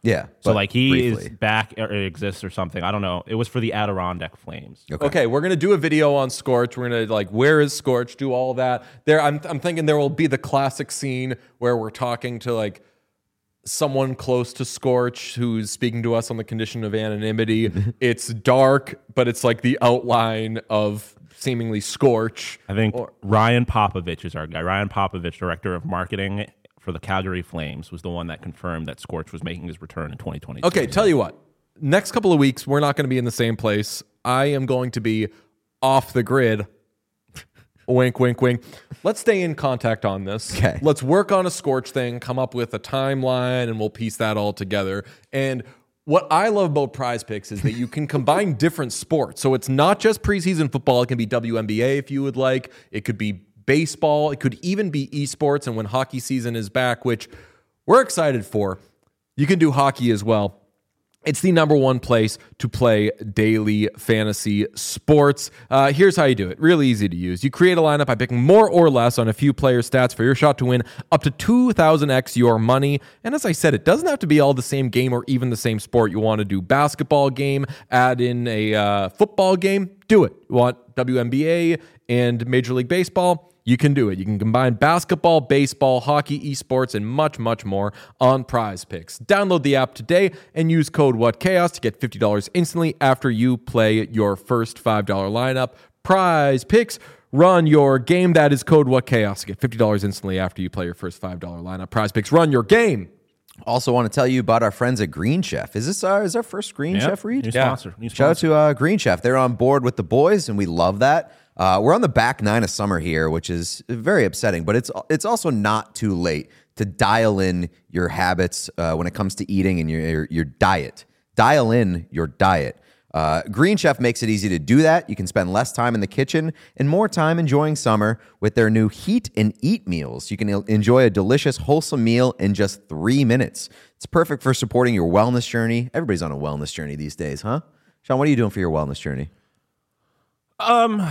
Yeah. So but like he briefly. is back or exists or something. I don't know. It was for the Adirondack Flames. Okay. Okay, we're gonna do a video on Scorch. We're gonna like, where is Scorch? Do all that. There, I'm, I'm thinking there will be the classic scene where we're talking to like someone close to Scorch who's speaking to us on the condition of anonymity. It's dark, but it's like the outline of seemingly Scorch. I think Or- Ryan Popovich is our guy. Ryan Popovich, director of marketing for the Calgary Flames, was the one that confirmed that Scorch was making his return in twenty twenty. Okay, tell you what. Next couple of weeks, we're not going to be in the same place. I am going to be off the grid. Wink, wink, wink. Let's stay in contact on this. Okay. Let's work on a Scorch thing, come up with a timeline, and we'll piece that all together. And what I love about Prize Picks is that you can combine different sports. So it's not just preseason football. It can be W N B A if you would like. It could be baseball. It could even be esports. And when hockey season is back, which we're excited for, you can do hockey as well. It's the number one place to play daily fantasy sports. Uh, here's how you do it. Really easy to use. You create a lineup by picking more or less on a few player stats for your shot to win up to two thousand x your money. And as I said, it doesn't have to be all the same game or even the same sport. You want to do basketball game, add in a uh, football game, do it. You want W N B A and Major League Baseball? You can do it. You can combine basketball, baseball, hockey, esports, and much, much more on Prize Picks. Download the app today and use code WhatChaos to get fifty dollars instantly after you play your first five dollars lineup. Prize Picks, run your game. That is code WhatChaos to get fifty dollars instantly after you play your first five dollars lineup. Prize Picks, run your game. Also want to tell you about our friends at Green Chef. Is this our, is our first Green Yep. Chef read? New Yeah. sponsor. New Shout out sponsor. to uh, Green Chef. They're on board with the boys, and we love that. Uh, we're on the back nine of summer here, which is very upsetting, but it's it's also not too late to dial in your habits uh, when it comes to eating and your, your your diet. Dial in your diet. Uh, Green Chef makes it easy to do that. You can spend less time in the kitchen and more time enjoying summer with their new Heat and Eat meals. You can el- enjoy a delicious, wholesome meal in just three minutes. It's perfect for supporting your wellness journey. Everybody's on a wellness journey these days, huh? Sean, what are you doing for your wellness journey? Um,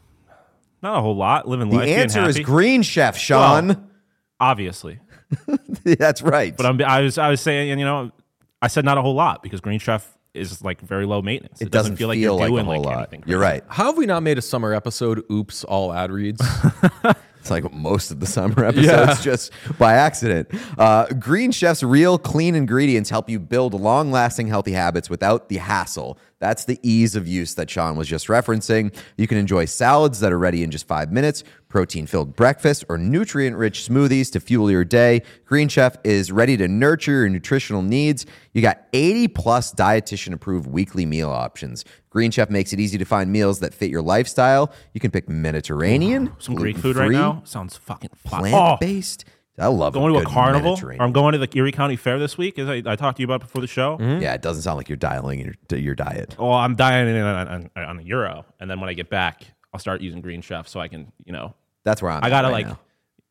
not a whole lot. Living The life. being answer is happy. Green Chef, Sean. Well, obviously. That's right. But I'm, I was I was saying, and you know, I said not a whole lot because Green Chef is like very low maintenance. it doesn't feel like, you're a doing whole like lot. anything. You're right. How have we not made a summer episode? Oops, all ad reads. It's like most of the summer episodes Yeah. just by accident. Uh, Green Chef's real clean ingredients help you build long-lasting healthy habits without the hassle. That's the ease of use that Sean was just referencing. You can enjoy salads that are ready in just five minutes, protein-filled breakfast, or nutrient-rich smoothies to fuel your day. Green Chef is ready to nurture your nutritional needs. You got eighty plus dietitian-approved weekly meal options. Green Chef makes it easy to find meals that fit your lifestyle. You can pick Mediterranean, Some Greek food right gluten-free, now sounds fucking fun. Oh, plant-based. I love going to a good carnival, or Mediterranean. I'm going to the Erie County Fair this week, as I, I talked to you about before the show. Yeah, it doesn't sound like you're dialing your, your diet. Well, I'm dying on, on, on the Euro, and then when I get back, I'll start using Green Chef so I can, you know, That's where I'm I at gotta right like now.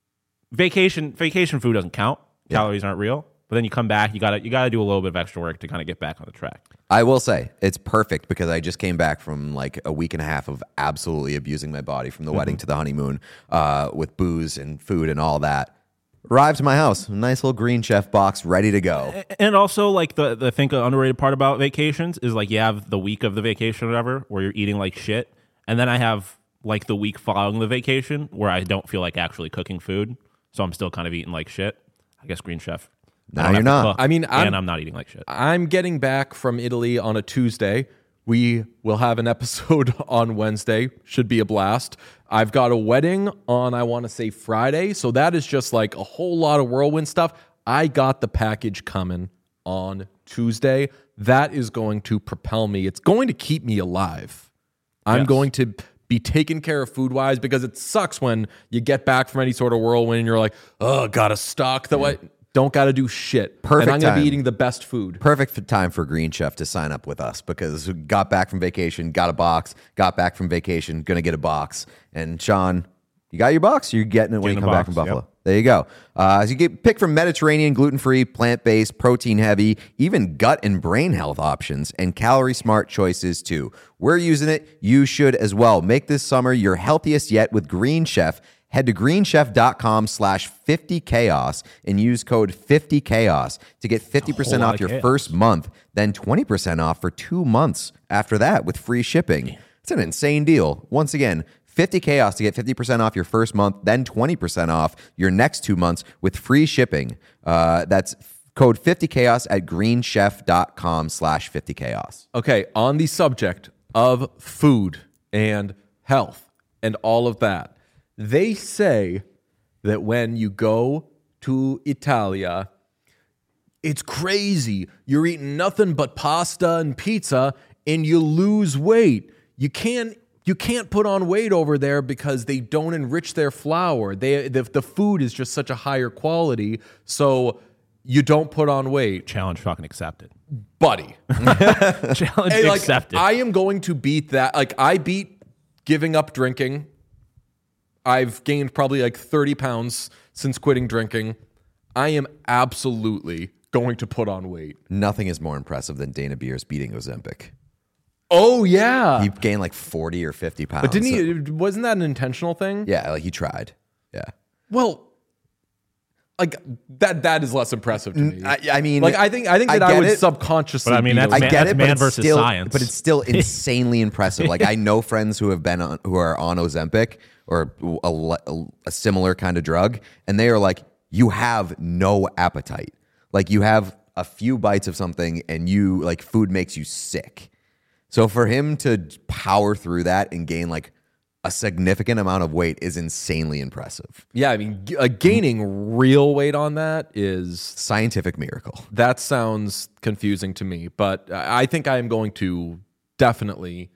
vacation. Vacation food doesn't count. Yeah. Calories aren't real. But then you come back, you gotta you gotta do a little bit of extra work to kind of get back on the track. I will say it's perfect because I just came back from like a week and a half of absolutely abusing my body from the wedding to the honeymoon uh, with booze and food and all that. Arrived to my house, nice little Green Chef box ready to go. And also, like the the I think the underrated part about vacations is like you have the week of the vacation or whatever where you're eating like shit, and then I have like the week following the vacation where I don't feel like actually cooking food, so I'm still kind of eating like shit. I guess Green Chef. No, I don't you're have to not. cook, I mean, I'm- and I'm not eating like shit. I'm getting back from Italy on a Tuesday. We will have an episode on Wednesday. Should be a blast. I've got a wedding on, I want to say, Friday. So that is just like a whole lot of whirlwind stuff. I got the package coming on Tuesday. That is going to propel me. It's going to keep me alive. I'm Yes. going to be taken care of food-wise because it sucks when you get back from any sort of whirlwind and you're like, oh, gotta stock the way. Don't got to do shit. Perfect And I'm going to time. be eating the best food. Perfect f- time for Green Chef to sign up with us because we got back from vacation, got a box, got back from vacation, gonna get a box. And Sean, you got your box? You're getting it when Getting you a come back box, from Buffalo. yep. There you go. Uh, so you get pick from Mediterranean, gluten-free, plant-based, protein-heavy, even gut and brain health options, and calorie-smart choices too. We're using it. You should as well. Make this summer your healthiest yet with Green Chef. Head to greenchef.com slash 50chaos and use code fifty chaos to get fifty percent lot off of your chaos. first month, then twenty percent off for two months after that with free shipping. It's an insane deal. Once again, fifty chaos to get fifty percent off your first month, then twenty percent off your next two months with free shipping. Uh, that's code fifty chaos at greenchef.com slash 50chaos. Okay, on the subject of food and health and all of that, they say that when you go to Italia, it's crazy. You're eating nothing but pasta and pizza and you lose weight. You can't you can't put on weight over there because they don't enrich their flour. They the, the food is just such a higher quality, so you don't put on weight. Challenge fucking accepted. Buddy. Challenge Hey, like, accepted. I am going to beat that. Like, I beat giving up drinking. I've gained probably like thirty pounds since quitting drinking. I am absolutely going to put on weight. Nothing is more impressive than Dana Beers beating Ozempic. Oh, yeah. He gained like forty or fifty pounds. but didn't he, wasn't that an intentional thing? Yeah, like he tried. Yeah. Well, like, that that is less impressive to me. I, I mean, like, I think I think that I, get would it. subconsciously But I mean, beat that's Ozempic. I man- get it, man but it's versus still, science. But it's still insanely impressive. Like I know friends who have been on, who are on Ozempic or a, a, a similar kind of drug, and they are like, you have no appetite. Like you have a few bites of something, and you like food makes you sick. So for him to power through that and gain like a significant amount of weight is insanely impressive. Yeah, I mean, g- uh, gaining real weight on that is Scientific miracle. that sounds confusing to me, but I think I am going to definitely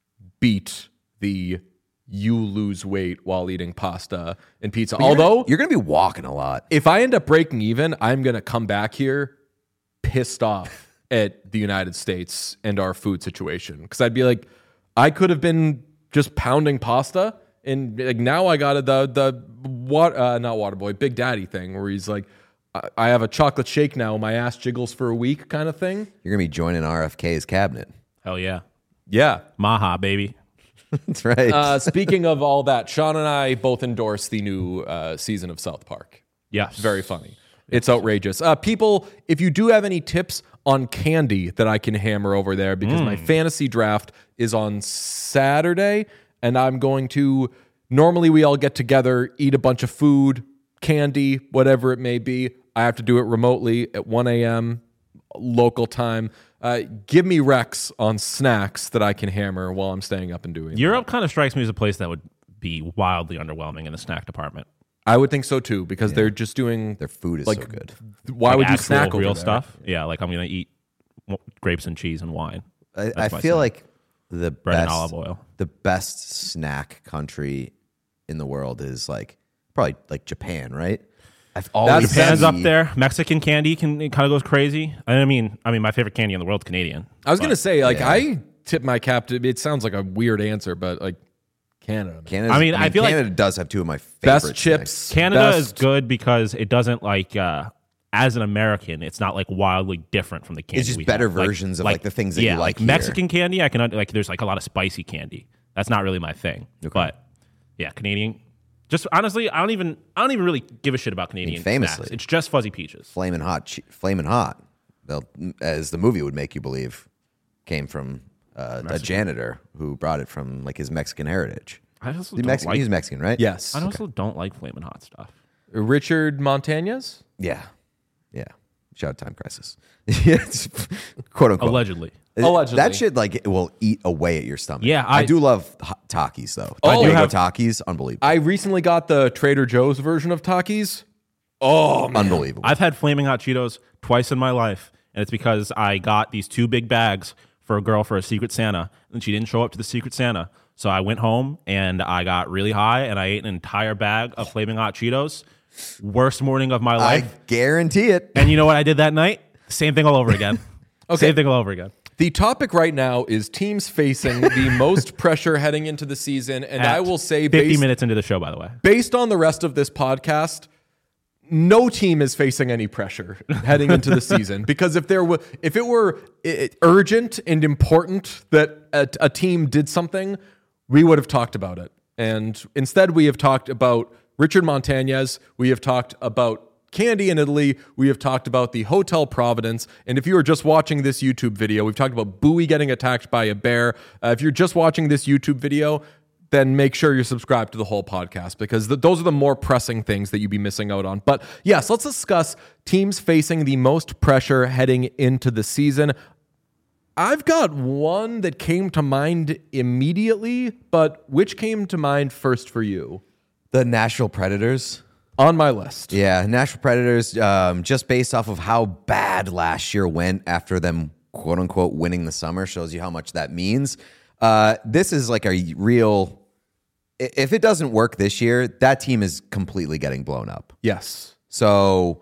beat the you lose weight while eating pasta and pizza. Although, You're going to be walking a lot. if I end up breaking even, I'm going to come back here pissed off at the United States and our food situation. Because I'd be like, I could have been just pounding pasta, and like now I got a, the the what uh, not Waterboy, Big Daddy thing where he's like, I, I have a chocolate shake now, my ass jiggles for a week kind of thing. You're going to be joining R F K's cabinet. Hell yeah. Yeah. Maha, baby. That's right. Uh, speaking of all that, Sean and I both endorse the new uh, season of South Park. Yes. Very funny. It's outrageous. Uh, people, if you do have any tips on candy that I can hammer over there, because my fantasy draft is on Saturday, and I'm going to, normally we all get together, eat a bunch of food, candy, whatever it may be. I have to do it remotely at one a.m. local time. Uh, give me recs on snacks that I can hammer while I'm staying up and doing Europe kind of strikes me as a place that would be wildly underwhelming in the snack department. I would think so too, because they're just doing Their food is like, so good. Why Like would you actual snack over real there? stuff? Yeah, like I'm gonna eat w- grapes and cheese and wine. I, I That's my feel snack. like the Bread and best, olive oil. the best snack country in the world is like probably like Japan, right? I've always Japan's see- up there. Mexican candy can it kind of goes crazy. I mean, I mean, my favorite candy in the world is Canadian. I was gonna say, like, yeah. I tip my cap to. It sounds like a weird answer, but like Canada, man. Canada's- I mean, I feel like- Canada does have two of my favorite best snacks. chips. Canada best, is good because it doesn't like uh as an American, it's not like wildly different from the candy. It's just we better have. Like- versions of, like, the things that you yeah, like here. Mexican candy, I can un- like. There's like a lot of spicy candy. That's not really my thing. But yeah, Canadian. Just honestly, I don't even I don't even really give a shit about Canadian famously. snacks. It's just fuzzy peaches. Flamin' hot, che- flamin' hot. They'll, as the movie would make you believe, came from uh, a janitor who brought it from like his Mexican heritage. I also The don't Mexican, like. he's Mexican, right? Yes, I also don't like flaming hot stuff. Richard Montañez. Yeah, yeah. Shout out Time Crisis. Yeah, it's quote unquote. Allegedly. Allegedly. That shit like it will eat away at your stomach. Yeah, I, I- do love hot Takis though. Oh, Fuego I have- Takis, unbelievable, I recently got the Trader Joe's version of Takis. Oh man, unbelievable. I've had flaming hot Cheetos twice in my life, and it's because I got these two big bags for a girl for a Secret Santa, and she didn't show up to the Secret Santa. So I went home and I got really high, and I ate an entire bag of flaming hot Cheetos. Worst morning of my I life. guarantee it. And you know what I did that night? Same thing all over again. Okay. Same thing all over again. The topic right now is teams facing the most pressure heading into the season, and At I will say, fifty based, minutes into the show, by the way. based on the rest of this podcast, no team is facing any pressure heading into the season, because if there were, if it were i- urgent and important that a, a team did something, we would have talked about it. And instead, we have talked about Richard Montañez. We have talked about Candy in Italy. We have talked about the Hotel Providence. And if you are just watching this YouTube video, we've talked about Bowie getting attacked by a bear. Uh, if you're just watching this YouTube video, then make sure you're subscribed to the whole podcast, because the, those are the more pressing things that you'd be missing out on. But yes, let's discuss teams facing the most pressure heading into the season. I've got one that came to mind immediately, but which came to mind first for you? The Nashville Predators. On my list. Yeah, Nashville Predators, um, just based off of how bad last year went after them, quote unquote, winning the summer, shows you how much that means. Uh, this is like a real... If it doesn't work this year, that team is completely getting blown up. Yes. So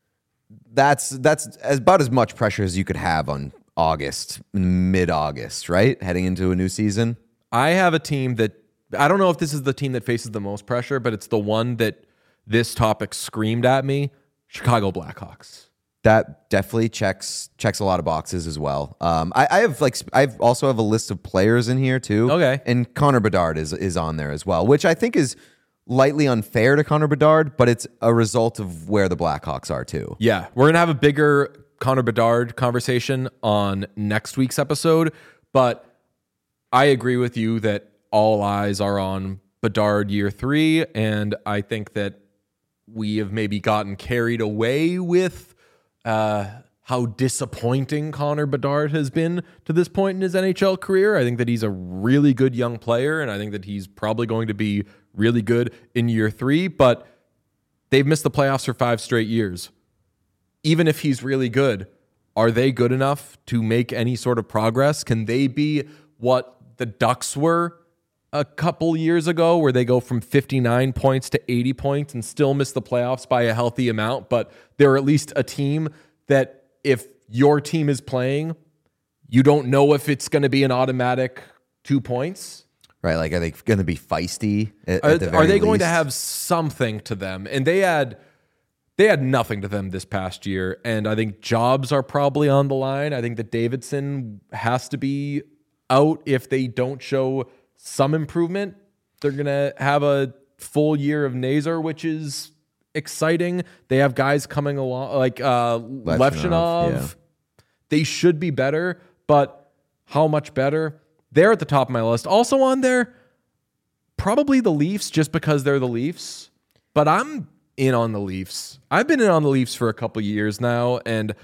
that's that's about as much pressure as you could have on August, mid-August, right? Heading into a new season. I have a team that, I don't know if this is the team that faces the most pressure, but it's the one that this topic screamed at me. Chicago Blackhawks. That definitely checks checks a lot of boxes as well. Um, I, I have like I also have a list of players in here too. Okay, and Connor Bedard is is on there as well, which I think is lightly unfair to Connor Bedard, but it's a result of where the Blackhawks are too. Yeah, we're gonna have a bigger Connor Bedard conversation on next week's episode, but I agree with you that all eyes are on Bedard year three, and I think that we have maybe gotten carried away with Uh, how disappointing Connor Bedard has been to this point in his N H L career. I think that he's a really good young player, and I think that he's probably going to be really good in year three, but they've missed the playoffs for five straight years. Even if he's really good, are they good enough to make any sort of progress? Can they be what the Ducks were a couple years ago, where they go from fifty-nine points to eighty points and still miss the playoffs by a healthy amount, but they're at least a team that if your team is playing, you don't know if it's going to be an automatic two points? Right, like are they going to be feisty? At, Are, at the very are they going to least? have something to them? And they had they had nothing to them this past year, and I think jobs are probably on the line. I think that Davidson has to be out if they don't show some improvement. They're going to have a full year of Nazar, which is exciting. They have guys coming along like uh, Levchinov. yeah. They should be better, but how much better? They're at the top of my list. Also on there, probably the Leafs, just because they're the Leafs. But I'm in on the Leafs. I've been in on the Leafs for a couple years now, and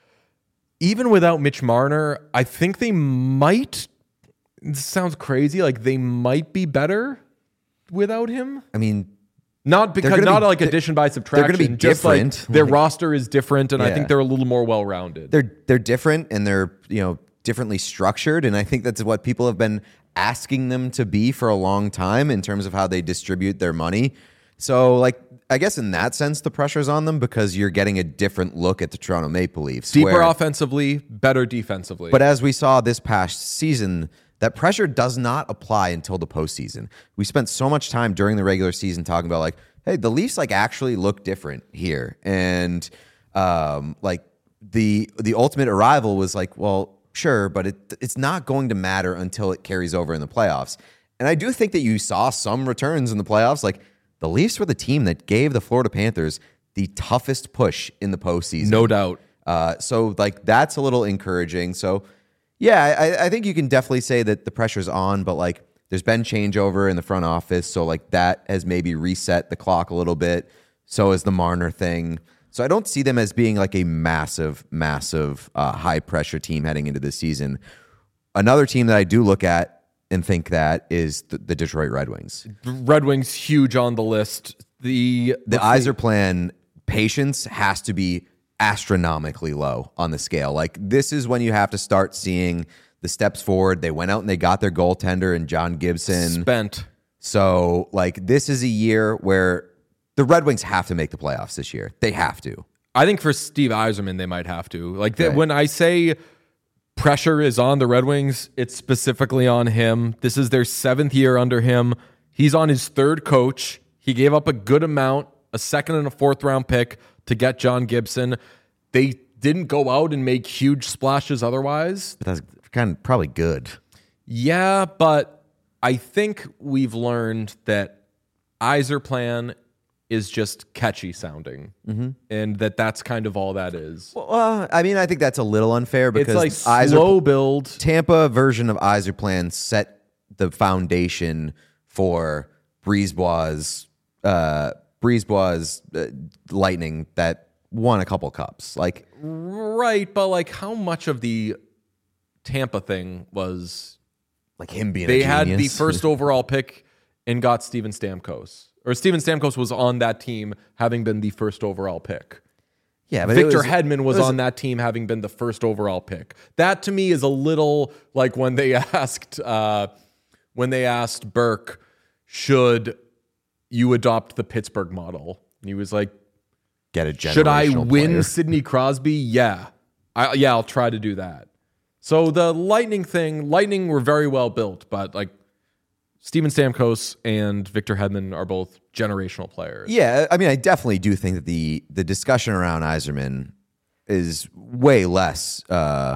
even without Mitch Marner, I think they might... This sounds crazy. Like they might be better without him. I mean, not because gonna not be, like addition by subtraction. They're going to be just different. Like their Like, roster is different, and I yeah. think they're a little more well rounded. They're they're different, and they're you know differently structured, and I think that's what people have been asking them to be for a long time in terms of how they distribute their money. So, like, I guess in that sense, the pressure's on them because you're getting a different look at the Toronto Maple Leafs. Deeper where, offensively, better defensively. But as we saw this past season, that pressure does not apply until the postseason. We spent so much time during the regular season talking about, like, hey, the Leafs, like, actually look different here. And, um, like, the the ultimate arrival was like, well, sure, but it it's not going to matter until it carries over in the playoffs. And I do think that you saw some returns in the playoffs. Like, the Leafs were the team that gave the Florida Panthers the toughest push in the postseason. no doubt. Uh, so, like, that's a little encouraging. So, yeah, I, I think you can definitely say that the pressure's on, but, like, there's been changeover in the front office. So, like, that has maybe reset the clock a little bit. So is the Marner thing. So I don't see them as being, like, a massive, massive uh, high-pressure team heading into this season. Another team that I do look at and think that is the, the Detroit Red Wings. Red Wings huge on the list. The The Yzer plan patience has to be astronomically low on the scale. Like, this is when you have to start seeing the steps forward. They went out and they got their goaltender and John Gibson. spent. So, like, this is a year where the Red Wings have to make the playoffs this year. They have to. I think for Steve Yzerman, they might have to. Like the, Right. when I say pressure is on the Red Wings, it's specifically on him. This is their seventh year under him. He's on his third coach. He gave up a good amount, a second and a fourth round pick to get John Gibson. They didn't go out and make huge splashes otherwise. But that's kind of probably good. Yeah, but I think we've learned that Yzer plan is just catchy sounding, mm-hmm. and that that's kind of all that is. Well, uh, I mean, I think that's a little unfair because it's like slow build. Tampa version of Yzerplan set the foundation for Brisebois' uh, Brisebois' uh, Lightning that won a couple cups. Like, right, but like, how much of the Tampa thing was like him being? They a had genius? the first overall pick and got Steven Stamkos. Or Steven Stamkos was on that team having been the first overall pick. Yeah, but Victor was, Hedman was, was on that team having been the first overall pick. That to me is a little like when they asked uh, when they asked Burke, should you adopt the Pittsburgh model? And he was like, get a generational should I win player. Sidney Crosby? Yeah. I, yeah, I'll try to do that. So the Lightning thing, Lightning were very well built, but like Steven Stamkos and Victor Hedman are both generational players. Yeah, I mean, I definitely do think that the the discussion around Yzerman is way less, uh,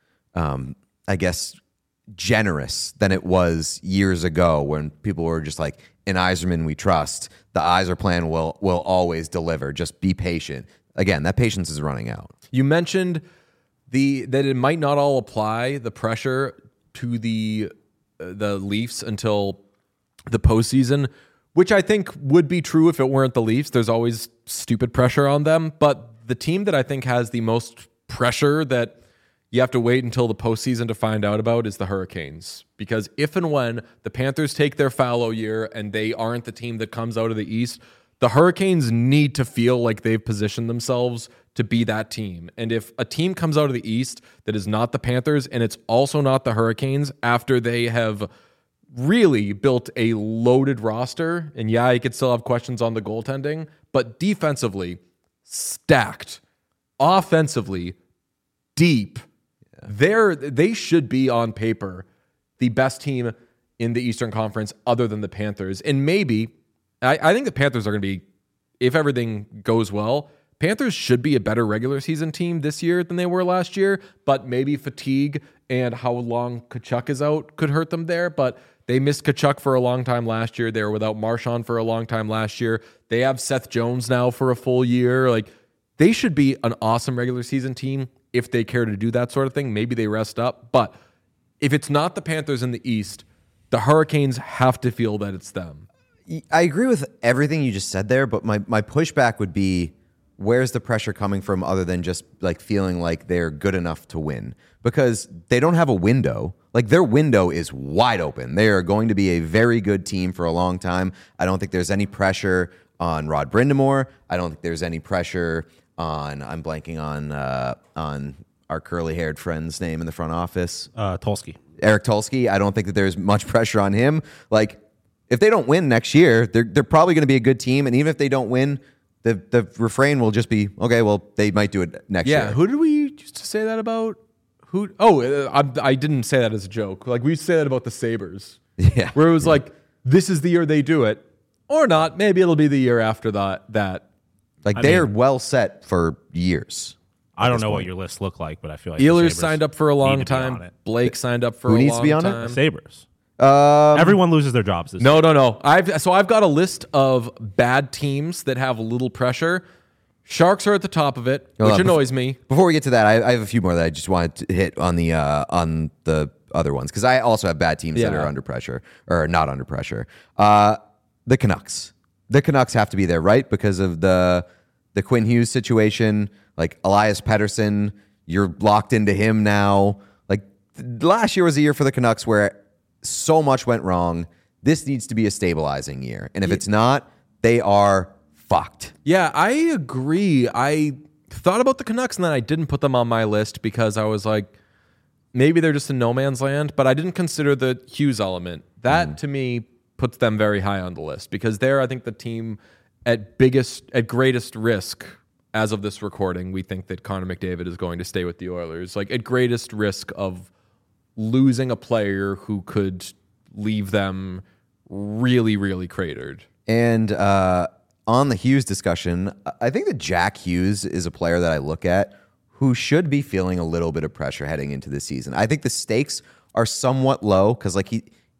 um, I guess, generous than it was years ago when people were just like, in Yzerman we trust. The Yzerplan will will always deliver. Just be patient. Again, that patience is running out. You mentioned the that it might not all apply, the pressure to the the Leafs until the postseason, which I think would be true if it weren't the Leafs. There's always stupid pressure on them. But the team that I think has the most pressure that you have to wait until the postseason to find out about is the Hurricanes. Because if and when the Panthers take their fallow year and they aren't the team that comes out of the East, the Hurricanes need to feel like they've positioned themselves to be that team. And if a team comes out of the East that is not the Panthers and it's also not the Hurricanes after they have really built a loaded roster, and yeah, you could still have questions on the goaltending, but defensively, stacked. Offensively, deep. Yeah. They're, they should be on paper the best team in the Eastern Conference other than the Panthers. And maybe, I, I think the Panthers are going to be, if everything goes well, Panthers should be a better regular season team this year than they were last year, but maybe fatigue and how long Tkachuk is out could hurt them there. But they missed Tkachuk for a long time last year. They were without Marchand for a long time last year. They have Seth Jones now for a full year. Like, they should be an awesome regular season team if they care to do that sort of thing. Maybe they rest up. But if it's not the Panthers in the East, the Hurricanes have to feel that it's them. I agree with everything you just said there, but my, my pushback would be, where's the pressure coming from other than just like feeling like they're good enough to win? Because they don't have a window. Like, their window is wide open. They are going to be a very good team for a long time. I don't think there's any pressure on Rod Brind'Amour. I don't think there's any pressure on, I'm blanking on uh, on our curly-haired friend's name in the front office. Uh, Tulsky. Eric Tulsky. I don't think that there's much pressure on him. Like, if they don't win next year, they're they're probably going to be a good team. And even if they don't win, the the refrain will just be, okay, well, they might do it next yeah, year. Yeah, who did we used to say that about? Who? Oh, uh, I, I didn't say that as a joke. Like, we used to say that about the Sabres. Yeah. Where it was yeah. like, this is the year they do it. Or not. Maybe it'll be the year after that. that. Like, I they're mean, well set for years. I don't know what your list looked like, but I feel like Ehlers signed up for a long need to be on time. it. Blake signed up for Who a needs long to be on it? time. The Sabres. Um, Everyone loses their jobs this No, year. no, no. I've so I've got a list of bad teams that have little pressure. Sharks are at the top of it, Hold which on, annoys me. Before we get to that, I, I have a few more that I just wanted to hit on the uh, on the other ones, because I also have bad teams that Yeah. are under pressure or not under pressure. Uh, the Canucks. The Canucks have to be there, right? Because of the the Quinn Hughes situation. Like, Elias Pettersson, you're locked into him now. Like, th- last year was a year for the Canucks where so much went wrong. This needs to be a stabilizing year. And if it's not, they are fucked. Yeah, I agree. I thought about the Canucks and then I didn't put them on my list because I was like, maybe they're just in no man's land, but I didn't consider the Hughes element. That mm. to me puts them very high on the list because they're, I think, the team at biggest, at greatest risk as of this recording. We think that Connor McDavid is going to stay with the Oilers, like at greatest risk of losing a player who could leave them really, really cratered. And uh, on the Hughes discussion, I think that Jack Hughes is a player that I look at who should be feeling a little bit of pressure heading into this season. I think the stakes are somewhat low because, like, he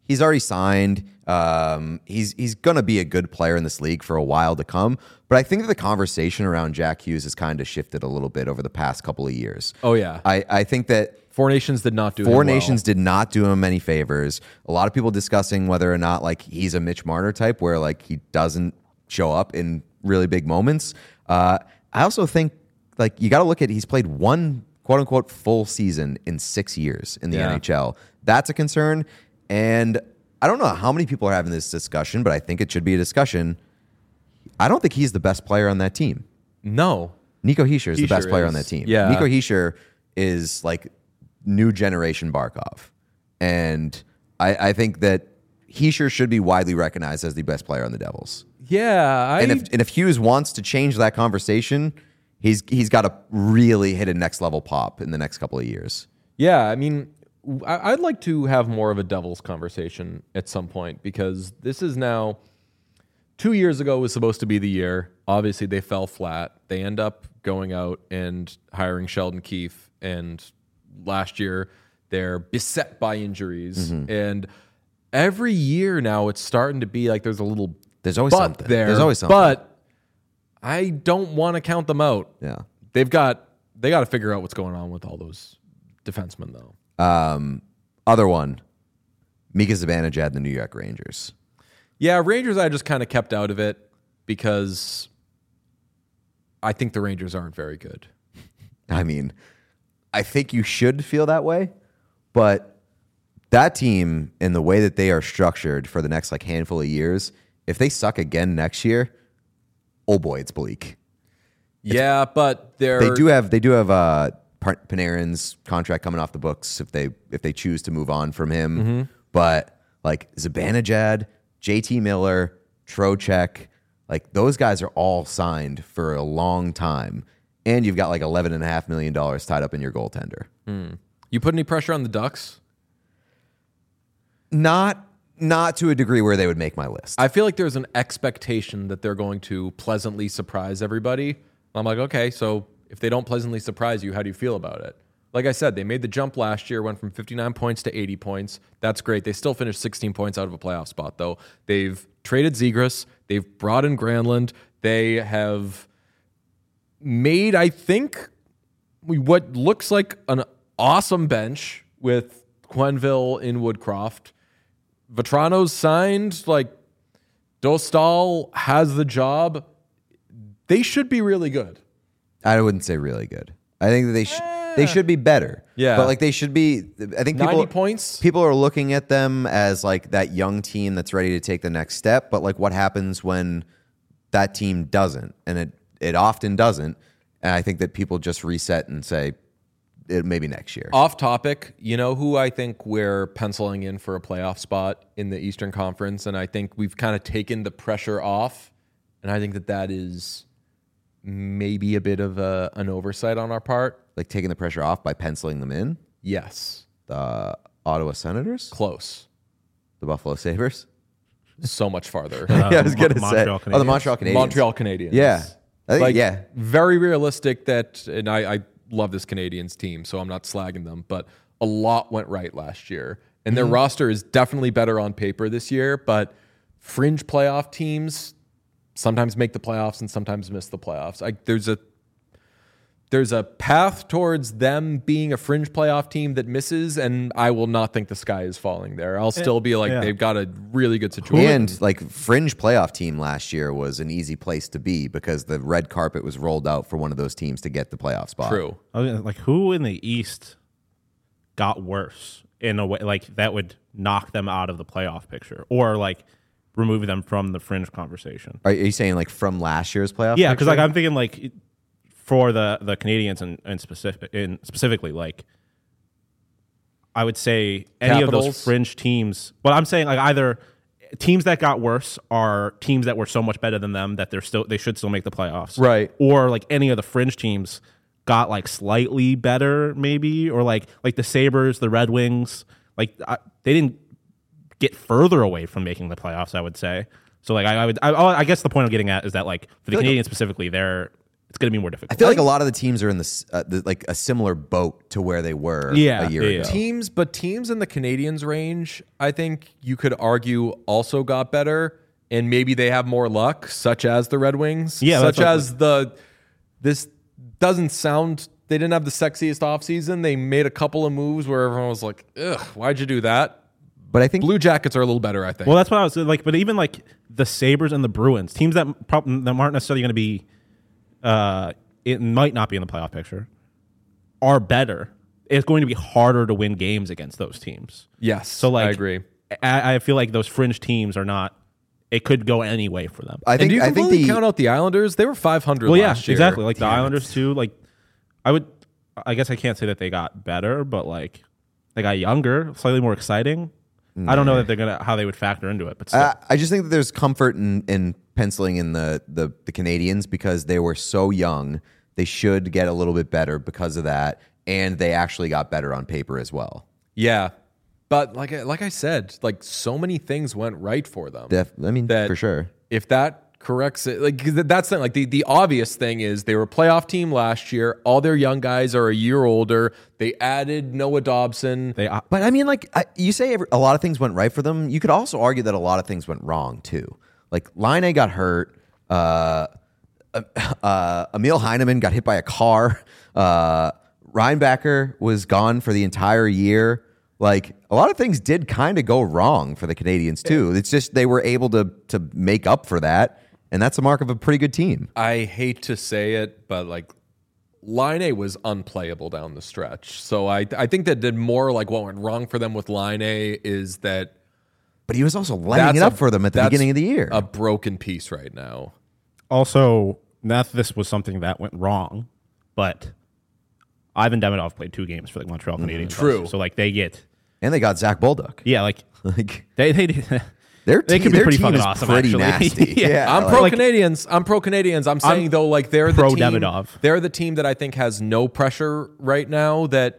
he's already signed. Um, he's he's going to be a good player in this league for a while to come. But I think that the conversation around Jack Hughes has kind of shifted a little bit over the past couple of years. Oh, yeah. I, I think that Four Nations did not do Four him Nations well. did not do him any favors. A lot of people discussing whether or not like he's a Mitch Marner type where like he doesn't show up in really big moments. Uh, I also think like you got to look at he's played one quote unquote full season in six years in the Yeah. N H L. That's a concern. And I don't know how many people are having this discussion, but I think it should be a discussion. I don't think he's the best player on that team. No. Nico Hischier is the best Hischier player is. on that team. Yeah. Nico Hischier is like new generation Barkov. And I, I think that Hischier should be widely recognized as the best player on the Devils. Yeah. I, And if and if Hughes wants to change that conversation, he's he's got to really hit a next level pop in the next couple of years. Yeah, I mean, I- I'd like to have more of a Devils conversation at some point because this is now two years ago was supposed to be the year. Obviously, they fell flat. They end up going out and hiring Sheldon Keefe, and last year they're beset by injuries. And every year now, it's starting to be like there's a little There's always but something. there. There's always something. But I don't want to count them out. Yeah. They've got they got to figure out what's going on with all those defensemen, though. Um, other one, Mika Zibanejad and the New York Rangers. Yeah, Rangers, I just kind of kept out of it because I think the Rangers aren't very good. I mean, I think you should feel that way, but that team and the way that they are structured for the next like handful of years, if they suck again next year, oh boy, it's bleak. Yeah, but they're They do have they do have uh, Par- Panarin's contract coming off the books if they if they choose to move on from him. Mm-hmm. But like Zibanejad, J T Miller, Trocheck, like those guys are all signed for a long time, and you've got like eleven and a half million dollars tied up in your goaltender. You put any pressure on the Ducks? Not not to a degree where they would make my list. I feel like there's an expectation that they're going to pleasantly surprise everybody. I'm like, okay, so if they don't pleasantly surprise you, how do you feel about it? Like I said, they made the jump last year, went from fifty-nine points to eighty points. That's great. They still finished sixteen points out of a playoff spot, though. They've traded Zegras. They've brought in Granlund. They have made, I think, what looks like an awesome bench with Quenneville in Woodcroft. Vetrano's signed. Like, Dostal has the job. They should be really good. I wouldn't say really good. I think that they should they should be better. Yeah. But like they should be I think people ninety points? people are looking at them as like that young team that's ready to take the next step, but like what happens when that team doesn't? And it it often doesn't. And I think that people just reset and say it maybe next year. Off topic, you know who I think we're penciling in for a playoff spot in the Eastern Conference, and I think we've kind of taken the pressure off, and I think that that is maybe a bit of a, an oversight on our part. Like taking the pressure off by penciling them in. Yes, The Ottawa Senators, close. the Buffalo Sabres. So much farther. Uh, yeah, I was gonna Mon- say. Montreal Oh, the Canadiens. Montreal Canadiens. Montreal Canadiens. Yeah. I think, Like, yeah. very realistic that, and I, I love this Canadiens team, so I'm not slagging them, but a lot went right last year. And their roster is definitely better on paper this year, but fringe playoff teams sometimes make the playoffs and sometimes miss the playoffs. Like there's a there's a path towards them being a fringe playoff team that misses, and I will not think the sky is falling there. I'll still be like, yeah. they've got a really good situation. And like fringe playoff team last year was an easy place to be because the red carpet was rolled out for one of those teams to get the playoff spot. True. I was like, who in the East got worse in a way like that would knock them out of the playoff picture or like remove them from the fringe conversation? Are you saying like from last year's playoff? Yeah, because like picture? I'm thinking like it- for the the Canadians and and specific in specifically like I would say any of Capitals? those fringe teams. But I'm saying like either teams that got worse are teams that were so much better than them that they're still they should still make the playoffs, Right. Or like any of the fringe teams got like slightly better maybe, or like like the Sabres, the Red Wings, like I, they didn't get further away from making the playoffs. I would say so. Like I, I would I, I guess the point I'm getting at is that like for the feel like Canadians specifically, they're it's going to be more difficult. I feel like a lot of the teams are in this uh, the, like a similar boat to where they were Yeah, a year yeah, ago. yeah. Teams, but teams in the Canadians range, I think you could argue also got better, and maybe they have more luck, such as the Red Wings. Yeah, such that's what- as the this doesn't sound. They didn't have the sexiest offseason. They made a couple of moves where everyone was like, "Ugh, why'd you do that?" But I think Blue Jackets are a little better, I think. Well, that's what I was like. But even like the Sabres and the Bruins, teams that prob- that aren't necessarily going to be, uh, it might not be in the playoff picture, are better. It's going to be harder to win games against those teams. yes, So like, I agree. I, I feel like those fringe teams are not. It could go any way for them. I And think do you I think completely the count out the Islanders? They were five hundred well, yeah, last year. exactly. Like the Damn it. Islanders too. Like, I would. I guess I can't say that they got better, but like they got younger, slightly more exciting. I don't know that they're gonna how they would factor into it, but still. I, I just think that there's comfort in, in penciling in the, the the Canadians because they were so young. They should get a little bit better because of that, and they actually got better on paper as well. Yeah, but like I- like I said, like so many things went right for them. Def, I mean, that for sure. If that corrects it, like 'cause that's the, like the, the obvious thing is they were a playoff team last year. All their young guys are a year older. They added Noah Dobson. they uh, But I mean, like I, you say, every, a lot of things went right for them. You could also argue that a lot of things went wrong too. Like Line got hurt. Uh, uh, Emil Heineman got hit by a car. Uh, Reinbacher was gone for the entire year. Like a lot of things did kind of go wrong for the Canadians too. It's just they were able to to make up for that, and that's a mark of a pretty good team. I hate to say it, but like Line A was unplayable down the stretch. So I I think that did more like what went wrong for them with Line A is that But he was also lighting that's it up a- for them at the that's beginning of the year. A broken piece right now. also not that this was something that went wrong, but Ivan Demidov played two games for the Montreal Canadiens. True. So like they get and they got Zach Bolduc. yeah like Like they they their They team, could be their pretty team fucking is awesome, pretty actually. nasty. Yeah. yeah, I'm like- pro Canadians. I'm pro Canadians. I'm saying I'm though, like they're the pro team. Demidov. They're the team that I think has no pressure right now. That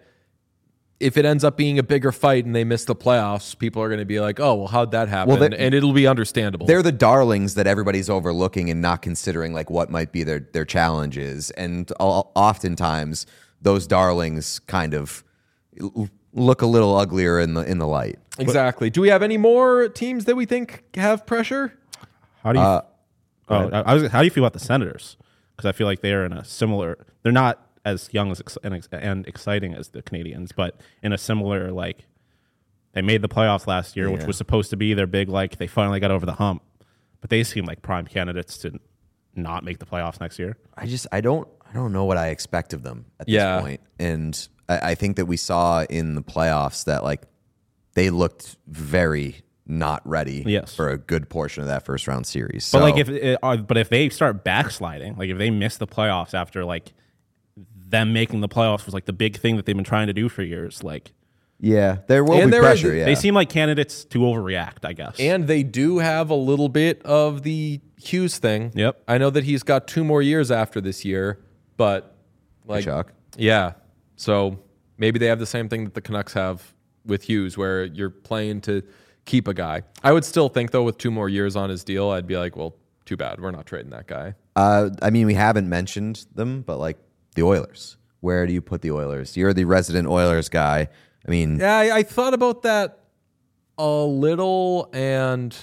if it ends up being a bigger fight and they miss the playoffs, people are going to be like, "Oh, well, how'd that happen?" Well, they- and it'll be understandable. They're the darlings that everybody's overlooking and not considering like what might be their their challenges, and o- oftentimes those darlings kind of l- look a little uglier in the in the light. exactly. Do we have any more teams that we think have pressure? how do you Uh, oh I, I was how do you feel about the Senators? Because I feel like they are in a similar. They're not as young as ex- and, ex- and exciting as the Canadians, but in a similar like they made the playoffs last year, which Yeah. was supposed to be their big like they finally got over the hump, but they seem like prime candidates to not make the playoffs next year. I just I don't I don't know what I expect of them at Yeah. this point, and I, I think that we saw in the playoffs that like they looked very not ready Yes. for a good portion of that first round series. But So, like if it, uh, but if they start backsliding, like if they miss the playoffs after like them making the playoffs was like the big thing that they've been trying to do for years, like yeah, there will And be there is- pressure. Yeah, they seem like candidates to overreact, I guess. And they do have a little bit of the Hughes thing. Yep. I know that he's got two more years after this year, but like, Chuck. yeah. So maybe they have the same thing that the Canucks have with Hughes, where you're playing to keep a guy. I would still think though, with two more years on his deal, I'd be like, well, too bad, we're not trading that guy. Uh, I mean, we haven't mentioned them, but like the Oilers. Where do you put the Oilers? You're the resident Oilers guy. I mean, Yeah, I, I thought about that a little, and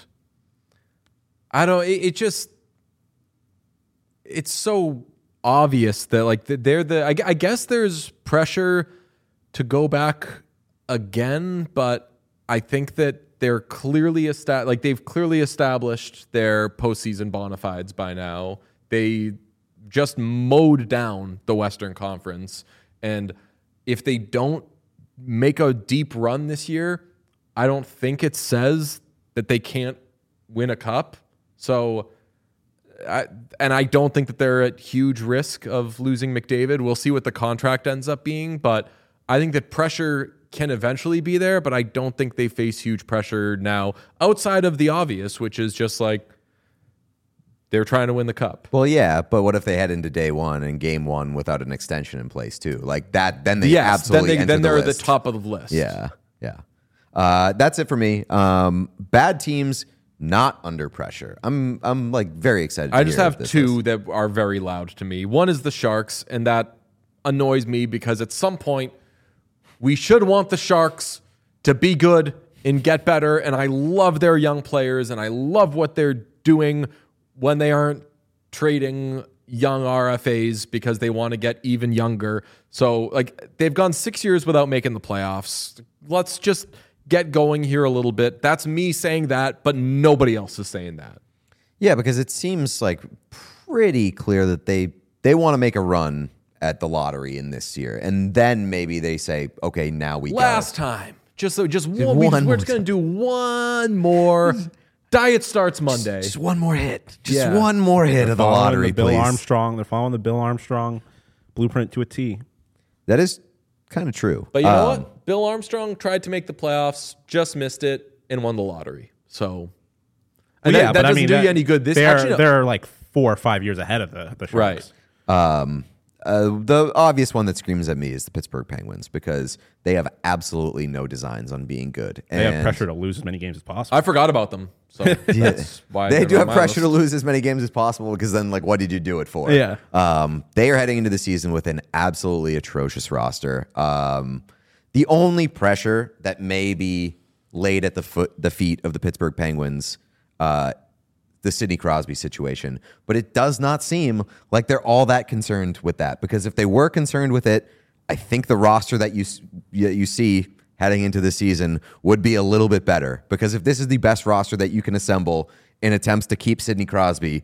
I don't. It, it just it's so obvious that like they're the. I, I guess there's pressure to go back again, but I think that they're clearly esta- like they've clearly established their postseason bona fides by now. They just mowed down the Western Conference, and if they don't make a deep run this year, I don't think it says that they can't win a cup. So, I, and I don't think that they're at huge risk of losing McDavid. We'll see what the contract ends up being, but I think that pressure can eventually be there, but I don't think they face huge pressure now outside of the obvious, which is just like they're trying to win the cup. well, yeah, but what if they head into day one and game one without an extension in place too? Like that, then they Yes, then, absolutely they, enter then they're the at the list. top of the list. Yeah, yeah. Uh, that's it for me. Um, bad teams. not under pressure. I'm I'm like very excited. To I just hear have this two list. that are very loud to me. One is the Sharks, and that annoys me because at some point we should want the Sharks to be good and get better. And I love their young players, and I love what they're doing when they aren't trading young R F As because they want to get even younger. So, like, they've gone six years without making the playoffs. Let's just get going here a little bit. That's me saying that, but nobody else is saying that. Yeah, because it seems like pretty clear that they they want to make a run at the lottery in this year, and then maybe they say, okay, now we Last go. time, just so just Just one, we one just, we're more just gonna do one more. Diet starts Monday. Just one more hit. Just Yeah. one more hit of the Following lottery, the Bill please. Armstrong. They're following the Bill Armstrong blueprint to a T. That is kind of true. But you know Um, what? Bill Armstrong tried to make the playoffs, just missed it, and won the lottery. So, and Well, that, that doesn't do that- you any good. This they're, actually, no. they're like four or five years ahead of the, the Sharks. Right. Um, uh, the obvious one that screams at me is the Pittsburgh Penguins because they have absolutely no designs on being good. They and have pressure to lose as many games as possible. I forgot about them. So that's why They they're do on have my pressure list. to lose as many games as possible because then, like, what did you do it for? Yeah. Um, they are heading into the season with an absolutely atrocious roster. Um, the only pressure that may be laid at the foot, the feet of the Pittsburgh Penguins, uh, the Sidney Crosby situation, but it does not seem like they're all that concerned with that. Because if they were concerned with it, I think the roster that you you, you see heading into the season would be a little bit better. Because if this is the best roster that you can assemble in attempts to keep Sidney Crosby,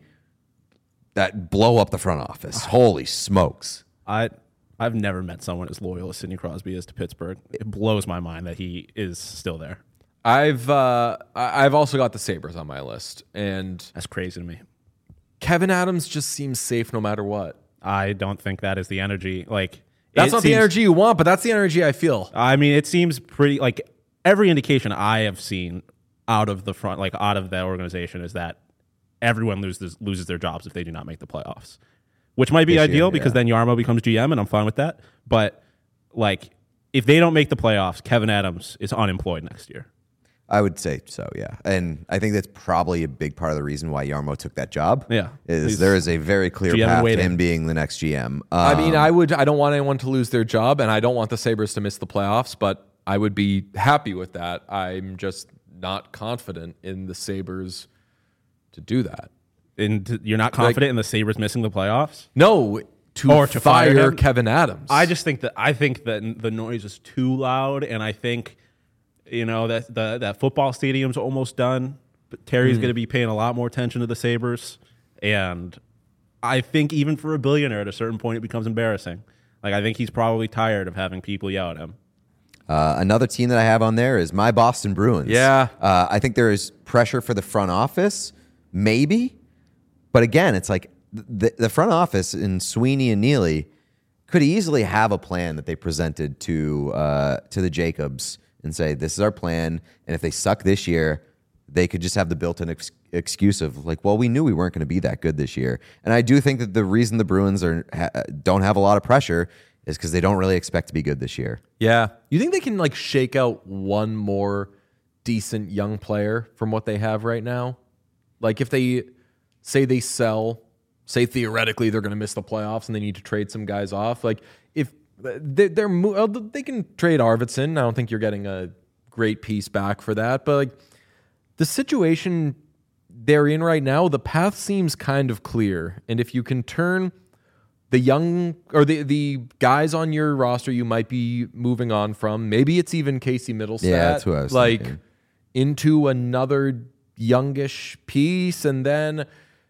that blow up the front office. Holy smokes! I I've never met someone as loyal as Sidney Crosby is to Pittsburgh. It blows my mind that he is still there. I've uh, I- I've also got the Sabres on my list, and That's crazy to me. Kevin Adams just seems safe no matter what. I don't think that is the energy. Like That's it not the seems- energy you want, but that's the energy I feel. I mean, it seems pretty like every indication I have seen out of the front, like out of the organization, is that everyone loses loses their jobs if they do not make the playoffs, which might be This ideal year, because yeah. then Yarmo becomes G M, and I'm fine with that. But like, if they don't make the playoffs, Kevin Adams is unemployed next year. I would say so, yeah. And I think that's probably a big part of the reason why Yarmo took that job. Yeah. Is He's there is a very clear G M path to waiting. him being the next G M. Um, I mean, I would. I don't want anyone to lose their job, and I don't want the Sabres to miss the playoffs. But I would be happy with that. I'm just not confident in the Sabres to do that. And t- you're not confident in the Sabres missing the playoffs? No, to, Or to fire fire him? Kevin Adams. I just think that I think that the noise is too loud, and I think you know that the that football stadium's almost done. But Terry's going to be paying a lot more attention to the Sabres, and I think even for a billionaire, at a certain point, it becomes embarrassing. Like I think he's probably tired of having people yell at him. Uh, another team that I have on there is my Boston Bruins. Yeah. Uh, I think there is pressure for the front office, maybe. But again, it's like the, the front office in Sweeney and Neely could easily have a plan that they presented to uh, to the Jacobs and say, this is our plan. And if they suck this year, they could just have the built-in ex- excuse of like, well, we knew we weren't going to be that good this year. And I do think that the reason the Bruins are ha- don't have a lot of pressure is because they don't really expect to be good this year. Yeah. You think they can like shake out one more decent young player from what they have right now? Like if they say they sell, say theoretically they're going to miss the playoffs and they need to trade some guys off. Like if they, they're mo- they can trade Arvidsson. I don't think you're getting a great piece back for that. But like the situation they're in right now, the path seems kind of clear. And if you can turn the young or the the guys on your roster you might be moving on from, maybe it's even Casey Middlestat, Yeah, that's who I was like thinking. into another youngish piece, and then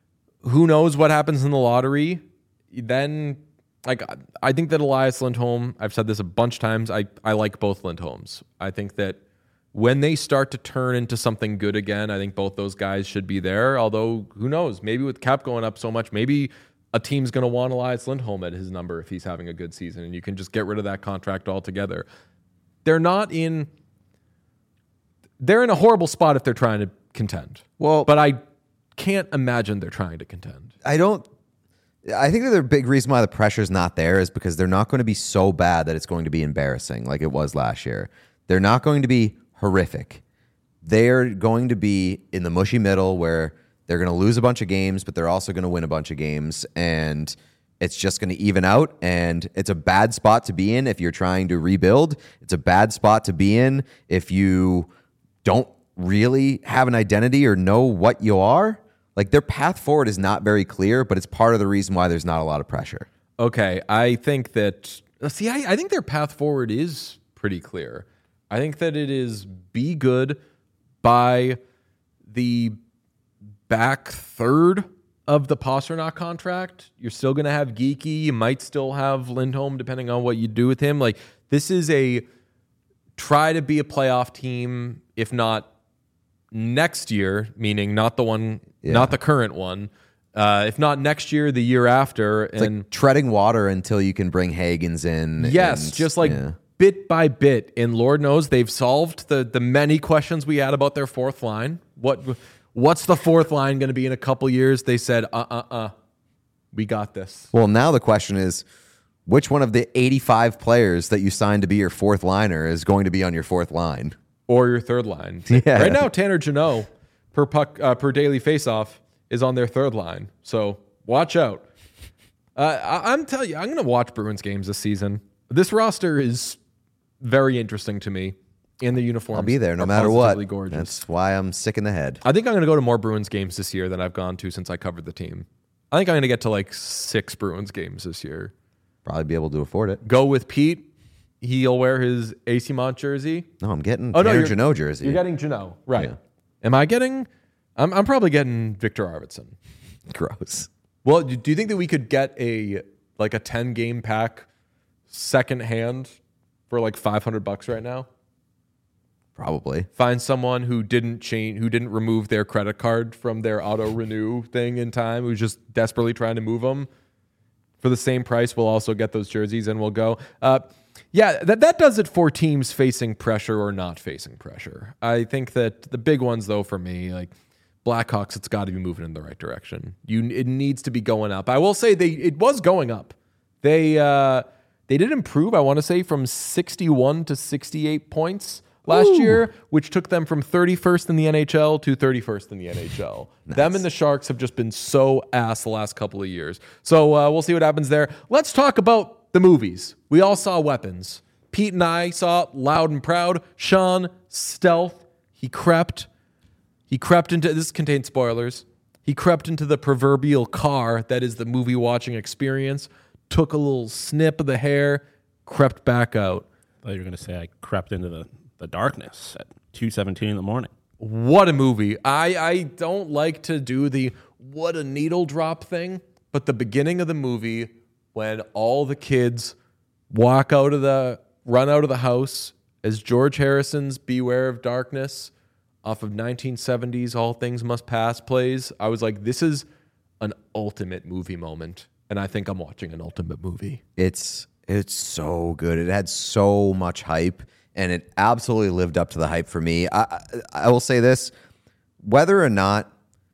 who knows what happens in the lottery. Then like I think that Elias Lindholm, I've said this a bunch of times, I, I like both Lindholms. I think that when they start to turn into something good again, I think both those guys should be there. Although, who knows? Maybe with cap going up so much, maybe a team's going to want Elias Lindholm at his number if he's having a good season, and you can just get rid of that contract altogether. They're not in... They're in a horrible spot if they're trying to contend. Well, But I can't imagine they're trying to contend. I don't. I think that the big reason why the pressure's not there is because they're not going to be so bad that it's going to be embarrassing like it was last year. They're not going to be horrific. they're going to be in the mushy middle where they're going to lose a bunch of games, but they're also going to win a bunch of games, and it's just going to even out. And it's a bad spot to be in if you're trying to rebuild. It's a bad spot to be in if you don't really have an identity or know what you are. Like, their path forward is not very clear, but it's part of the reason why there's not a lot of pressure. Okay, I think that, see, I, I think their path forward is pretty clear. I think that it is be good by the back third of the Pasternak contract. You're still going to have Geeky. You might still have Lindholm, depending on what you do with him. Like, this is a try to be a playoff team, if not next year, meaning not the one, yeah. not the current one. Uh, if not next year, the year after. It's and like treading water until you can bring Hagens in. Yes, and, just like yeah. bit by bit. And Lord knows they've solved the the many questions we had about their fourth line. What What's the fourth line going to be in a couple years? They said, uh-uh-uh, we got this. Well, now the question is, which one of the eighty-five players that you signed to be your fourth liner is going to be on your fourth line? Or your third line. Yeah. Right now, Tanner Jeannot, per puck, uh, per daily faceoff, is on their third line. So watch out. Uh, I, I'm telling you, I'm going to watch Bruins games this season. This roster is very interesting to me. And the uniforms I'll be there no are matter what. positively gorgeous. That's why I'm sick in the head. I think I'm going to go to more Bruins games this year than I've gone to since I covered the team. I think I'm going to get to like six Bruins games this year. Probably be able to afford it. Go with Pete. He'll wear his A C Mont jersey. No, I'm getting Oh, no, Tanner you're- Jeannot jersey. You're getting Jeannot, right? Yeah. Am I getting? I'm, I'm probably getting Victor Arvidsson. Gross. Well, do do you think that we could get a like a ten game pack second hand for like five hundred bucks right now? Probably. Find someone who didn't change, who didn't remove their credit card from their auto renew thing in time, who's just desperately trying to move them for the same price. We'll also get those jerseys and we'll go. Uh, yeah, that that does it for teams facing pressure or not facing pressure. I think that the big ones, though, for me, like Blackhawks, it's got to be moving in the right direction. You, it needs to be going up. I will say they it was going up. They uh, they did improve. I want to say from sixty-one to sixty-eight points last Ooh. year, which took them from thirty-first in the N H L to thirty-first in the N H L. Nice. Them and the Sharks have just been so ass the last couple of years. So uh, we'll see what happens there. Let's talk about the movies. We all saw Weapons. Pete and I saw Loud and Proud. Sean, Stealth. He crept. He crept into, this contains spoilers. He crept into the proverbial car that is the movie watching experience, took a little snip of the hair, crept back out. I thought you were going to say I crept into the, the darkness at two seventeen in the morning. What a movie. I, I don't like to do the what a needle drop thing, but the beginning of the movie when all the kids walk out of the, run out of the house as George Harrison's Beware of Darkness off of nineteen seventies All Things Must Pass plays, I was like, this is an ultimate movie moment. And I think I'm watching an ultimate movie. It's it's so good. It had so much hype, and it absolutely lived up to the hype for me. I, I, I will say this, whether or not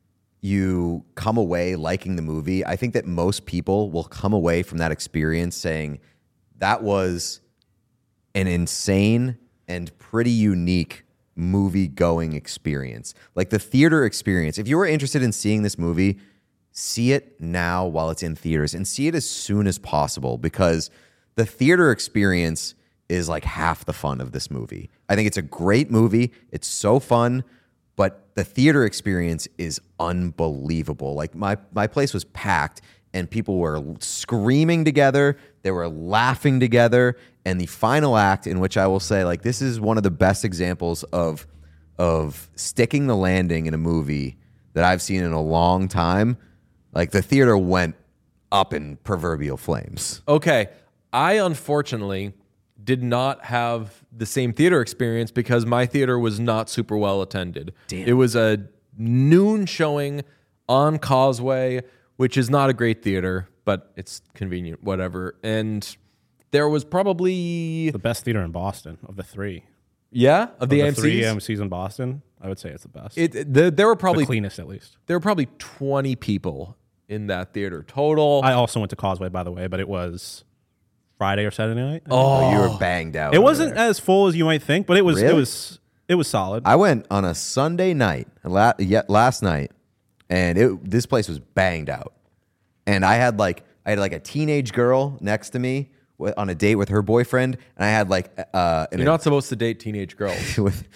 you come away liking the movie, I think that most people will come away from that experience saying that was an insane and pretty unique movie-going experience. Like the theater experience. If you were interested in seeing this movie, see it now while it's in theaters and see it as soon as possible, because the theater experience is like half the fun of this movie. I think it's a great movie. It's so fun, but the theater experience is unbelievable. Like my my place was packed and people were screaming together. They were laughing together. And the final act, in which I will say, like, this is one of the best examples of of sticking the landing in a movie that I've seen in a long time. Like, the theater went up in proverbial flames. Okay. I, unfortunately, did not have the same theater experience because my theater was not super well attended. Damn. It was a noon showing on Causeway, which is not a great theater, but it's convenient, whatever. And there was probably... The best theater in Boston of the three. Yeah? Of the, of the three A M Cs? A M Cs in Boston, I would say it's the best. It, it- the, there were probably the cleanest, at least. there were probably twenty people in that theater total. I also went to Causeway, by the way, but it was Friday or Saturday night. Oh, you were banged out. It over wasn't there. as full as you might think, but it was. It Really? was. It was solid. I went on a Sunday night, la- yet last night, and it this place was banged out. And I had like I had like a teenage girl next to me w- on a date with her boyfriend, and I had like uh, an You're not supposed to date teenage girls. with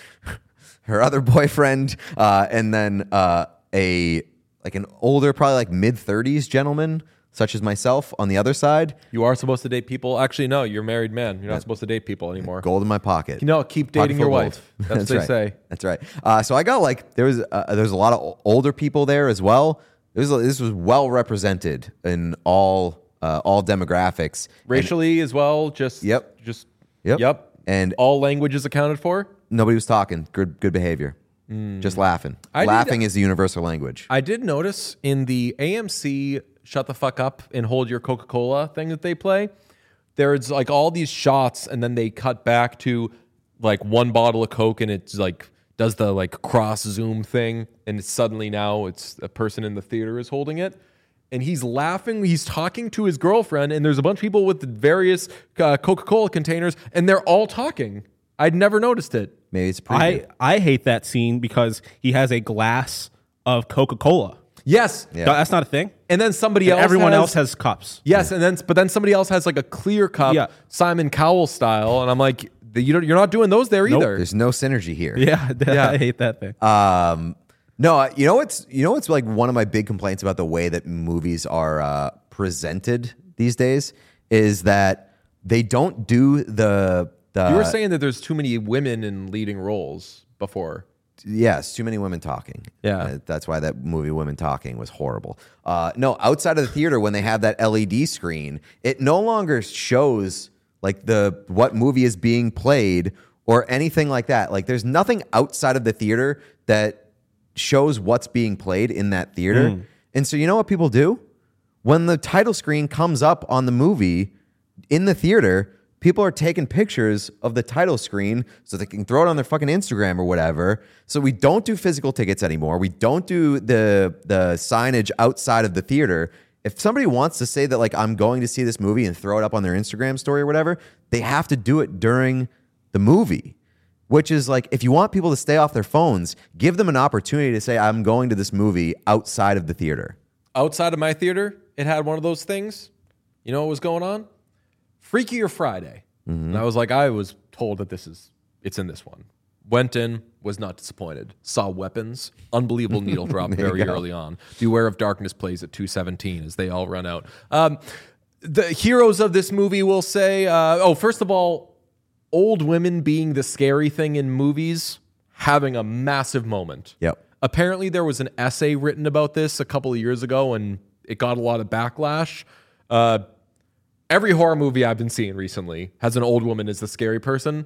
her other boyfriend, uh, and then uh, a like an older, probably like mid thirties gentleman, such as myself, on the other side. You are supposed to date people. Actually, no, you're a married man. You're not supposed to date people anymore. Gold in my pocket. You know, keep Pocket dating full your of gold. wife. That's, what they right. say. That's right. Uh, so I got like there was uh, there was a lot of o- older people there as well. This was, this was well represented in all uh, all demographics. Racially as well. Just Yep. Just Yep. Yep. And all languages accounted for. nobody was talking. Good good behavior. Just laughing. I did- Laughing is the universal language. I did notice in the A M C "Shut the Fuck Up and Hold Your Coca-Cola" thing that they play, there's like all these shots, and then they cut back to like one bottle of Coke, and it's like does the like cross zoom thing, and it's suddenly now it's a person in the theater is holding it, and he's laughing. He's talking to his girlfriend, and there's a bunch of people with the various uh, Coca-Cola containers, and they're all talking. I'd never noticed it. Maybe it's a preview. I, I hate that scene because he has a glass of Coca-Cola. Yes, Yeah. That's not a thing. and then somebody And else. everyone has, else has cups. Yes, and then but then somebody else has like a clear cup, Yeah. Simon Cowell style, and I'm like, you don't, you're not doing those there Nope. either. There's no synergy here. Yeah, Yeah. I hate that thing. Um, no, you know what's you know what's like one of my big complaints about the way that movies are uh, presented these days is that they don't do the the. You were saying that there's too many women in leading roles before. Yes, too many women talking. Yeah. Uh, that's why that movie Women Talking was horrible. Uh, no, outside of the theater, when they have that L E D screen, it no longer shows like the what movie is being played or anything like that. Like there's nothing outside of the theater that shows what's being played in that theater. Mm. And so you know what people do? When the title screen comes up on the movie in the theater, people are taking pictures of the title screen so they can throw it on their fucking Instagram or whatever. So we don't do physical tickets anymore. We don't do the the signage outside of the theater. If somebody wants to say that like I'm going to see this movie and throw it up on their Instagram story or whatever, they have to do it during the movie. Which is like, if you want people to stay off their phones, give them an opportunity to say, I'm going to this movie outside of the theater. Outside of my theater, it had one of those things. You know what was going on? Freakier Friday. Mm-hmm. And I was like, I was told that this is, it's in this one. Went in, was not disappointed. Saw weapons, unbelievable needle drop very early on. Beware of Darkness plays at two seventeen as they all run out. Um, the heroes of this movie will say, uh, oh, first of all, old women being the scary thing in movies, having a massive moment. Yep. Apparently, there was an essay written about this a couple of years ago, and it got a lot of backlash. Uh, every horror movie I've been seeing recently has an old woman as the scary person.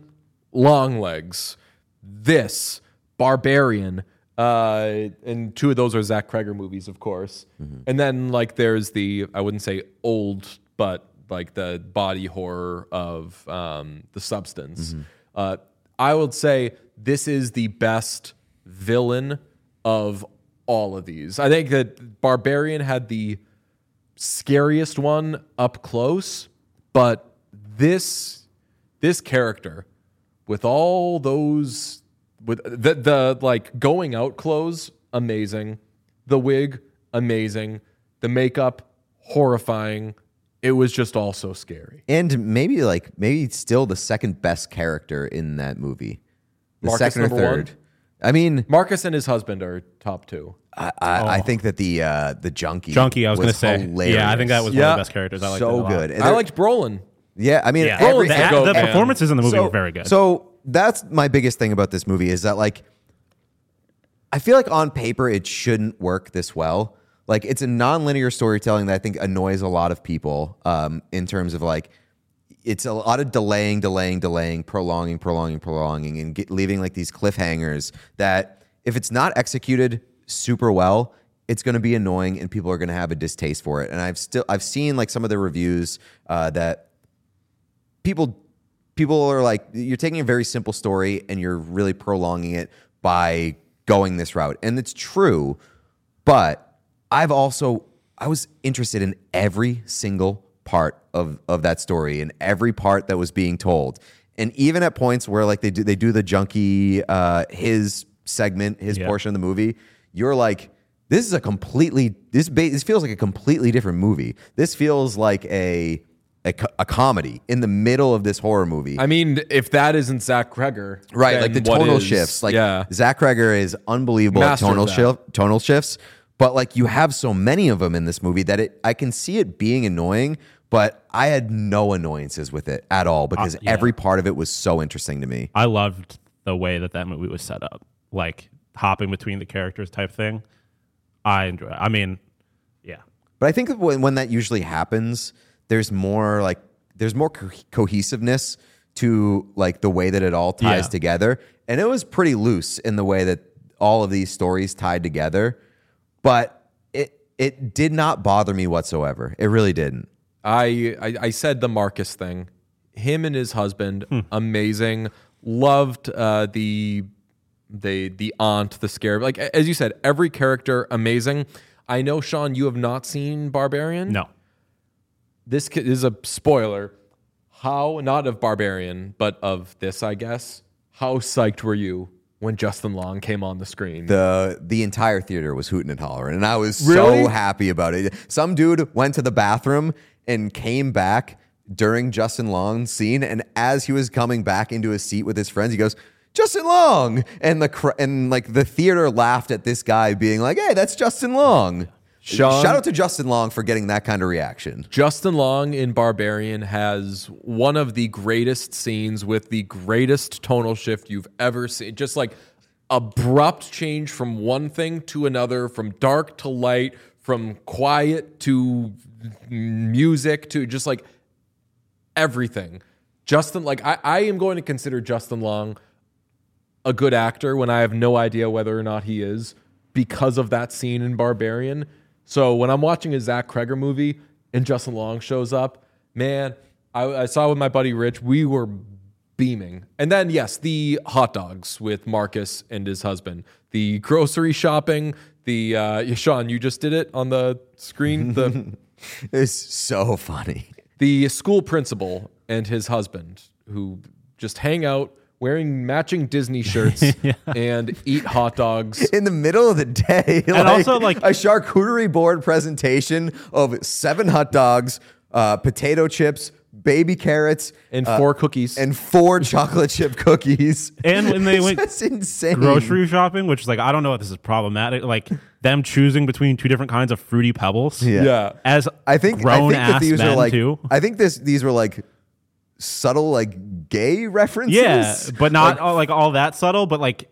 Longlegs, this, Barbarian, uh, and two of those are Zach Kreger movies, of course. Mm-hmm. And then like there's the, I wouldn't say old, but like the body horror of um, The Substance. Mm-hmm. Uh, I would say this is the best villain of all of these. I think that Barbarian had the scariest one up close, but this this character with all those with the the like going out clothes, amazing. The wig, amazing. The makeup, horrifying. It was just all so scary. And maybe like maybe still the second best character in that movie. The Marcus second or number third. one? I mean, Marcus and his husband are top two. I, I, I think that the uh, the junkie Junkie, I was, going to say. hilarious. Yeah, I think that was one Yeah. of the best characters. I liked it a so lot. good. And I there- liked Brolin. Yeah, I mean, Yeah, every, the, the the, goat, the man. performances in the movie so, were very good. So that's my biggest thing about this movie is that like I feel like on paper it shouldn't work this well. Like it's a non-linear storytelling that I think annoys a lot of people um, in terms of like it's a lot of delaying, delaying, delaying, prolonging, prolonging, prolonging, and get, leaving like these cliffhangers that if it's not executed super well, it's going to be annoying and people are going to have a distaste for it. And I've still I've seen like some of the reviews uh, that people people are like, you're taking a very simple story and you're really prolonging it by going this route. And it's true, but I've also, I was interested in every single part of, of that story and every part that was being told. And even at points where like they do they do the junkie uh, his segment, his Yeah. portion of the movie, you're like, this is a completely this ba- this feels like a completely different movie. This feels like a a, co- a comedy in the middle of this horror movie. I mean, if that isn't Zach Kreger, Right, then like the what tonal is? shifts. Like yeah. Zach Kreger is unbelievable Master at of tonal that. shift, tonal shifts. But like you have so many of them in this movie that it, I can see it being annoying. But I had no annoyances with it at all because Uh, yeah. every part of it was so interesting to me. I loved the way that that movie was set up, like hopping between the characters type thing. I enjoy it. I mean, yeah. But I think that when, when that usually happens, there's more like there's more co- cohesiveness to like the way that it all ties Yeah. together. And it was pretty loose in the way that all of these stories tied together. But it it did not bother me whatsoever. It really didn't. I, I I said the Marcus thing. Him and his husband, Hmm. amazing. Loved uh, the the the aunt, the scare. Like as you said, every character amazing. I know, Sean, you have not seen Barbarian. No. This ki- is a spoiler. How, not of Barbarian, but of this, I guess. How psyched were you when Justin Long came on the screen? The the entire theater was hooting and hollering, and I was Really? so happy about it. Some dude went to the bathroom and came back during Justin Long's scene, and as he was coming back into his seat with his friends, he goes, "Justin Long!" And the cr- and like the theater laughed at this guy being like, "Hey, that's Justin Long." Sean- Shout out to Justin Long for getting that kind of reaction. Justin Long in Barbarian has one of the greatest scenes with the greatest tonal shift you've ever seen. Just like abrupt change from one thing to another, from dark to light, from quiet to music to just like everything. Justin, like I, I am going to consider Justin Long a good actor when I have no idea whether or not he is because of that scene in Barbarian. So when I'm watching a Zach Kreger movie and Justin Long shows up, man, I, I saw with my buddy Rich, we were beaming. And then, yes, the hot dogs with Marcus and his husband, the grocery shopping, the, uh, Sean, you just did it on the screen, the, It's so funny. the school principal and his husband who just hang out wearing matching Disney shirts and eat hot dogs. In the middle of the day, And also, like- a charcuterie board presentation of seven hot dogs, uh, potato chips, baby carrots, And uh, four cookies. and four chocolate chip cookies. And when they went That's insane. grocery shopping, which is like, I don't know if this is problematic, like them choosing between two different kinds of fruity pebbles. Yeah. Yeah. As I think I grown think that ass these men are like too. I think this these were like subtle like gay references. Yeah, but not Like, all, like all that subtle, but like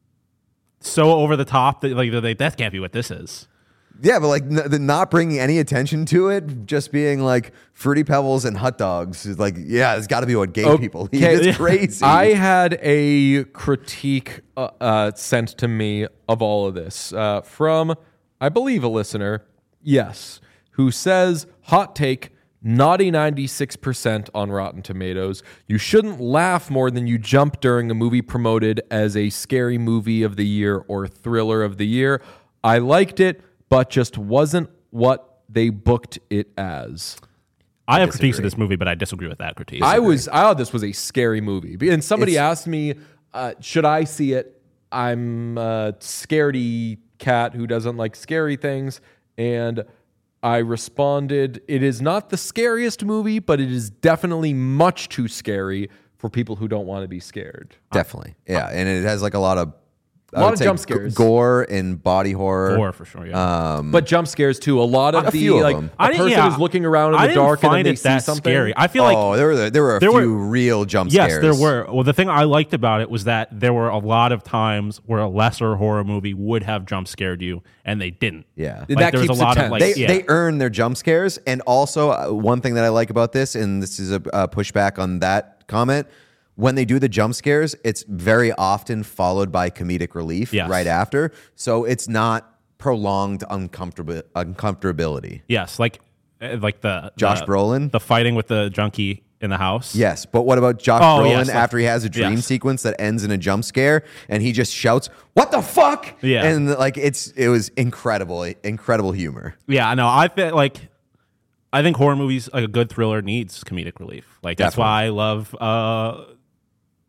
so over the top that like they're like that can't be what this is. yeah, but like n- the not bringing any attention to it, just being like fruity pebbles and hot dogs is like, yeah, it's got to be what gay people eat. Okay. It's crazy. I had a critique uh, uh, sent to me of all of this uh, from, I believe, a listener, yes, who says, hot take, naughty ninety-six percent on Rotten Tomatoes. You shouldn't laugh more than you jump during a movie promoted as a scary movie of the year or thriller of the year. I liked it, but just wasn't what they booked it as. I have critiques of this movie, but I disagree with that critique. I was I thought this was a scary movie, and somebody It's- asked me, uh, "Should I see it?" I'm a scaredy cat who doesn't like scary things, and I responded, "It is not the scariest movie, but it is definitely much too scary for people who don't want to be scared." Definitely. Yeah. And it has like a lot of A I lot would of say jump g- scares. gore and body horror. Gore for sure. Yeah. But jump scares too. A lot of A the few of like them. a I didn't- person yeah, is looking around in I the didn't dark and then find they it see that something. scary. I feel like oh, there were there were a there few were- real jump yes, scares. there were. Well, the thing I liked about it was that there were a lot of times where a lesser horror movie would have jump scared you, and they didn't. Yeah. That Like, there was keeps a it lot of tense. like They yeah. they earn their jump scares, and also uh, one thing that I like about this, and this is a, a pushback on that comment. When they do the jump scares, it's very often followed by comedic relief Yes. right after, so it's not prolonged uncomfortable uncomfortability. yes, like uh, like the Josh the, Brolin? the fighting with the junkie in the house. Yes, but what about Josh Oh, Brolin yes, like- after he has a dream yes. sequence that ends in a jump scare and he just shouts, "What the fuck?" Yeah. and like it's it was incredible, incredible humor. Yeah, I know. I feel like I think horror movies, like a good thriller, needs comedic relief. Like that's why I love uh,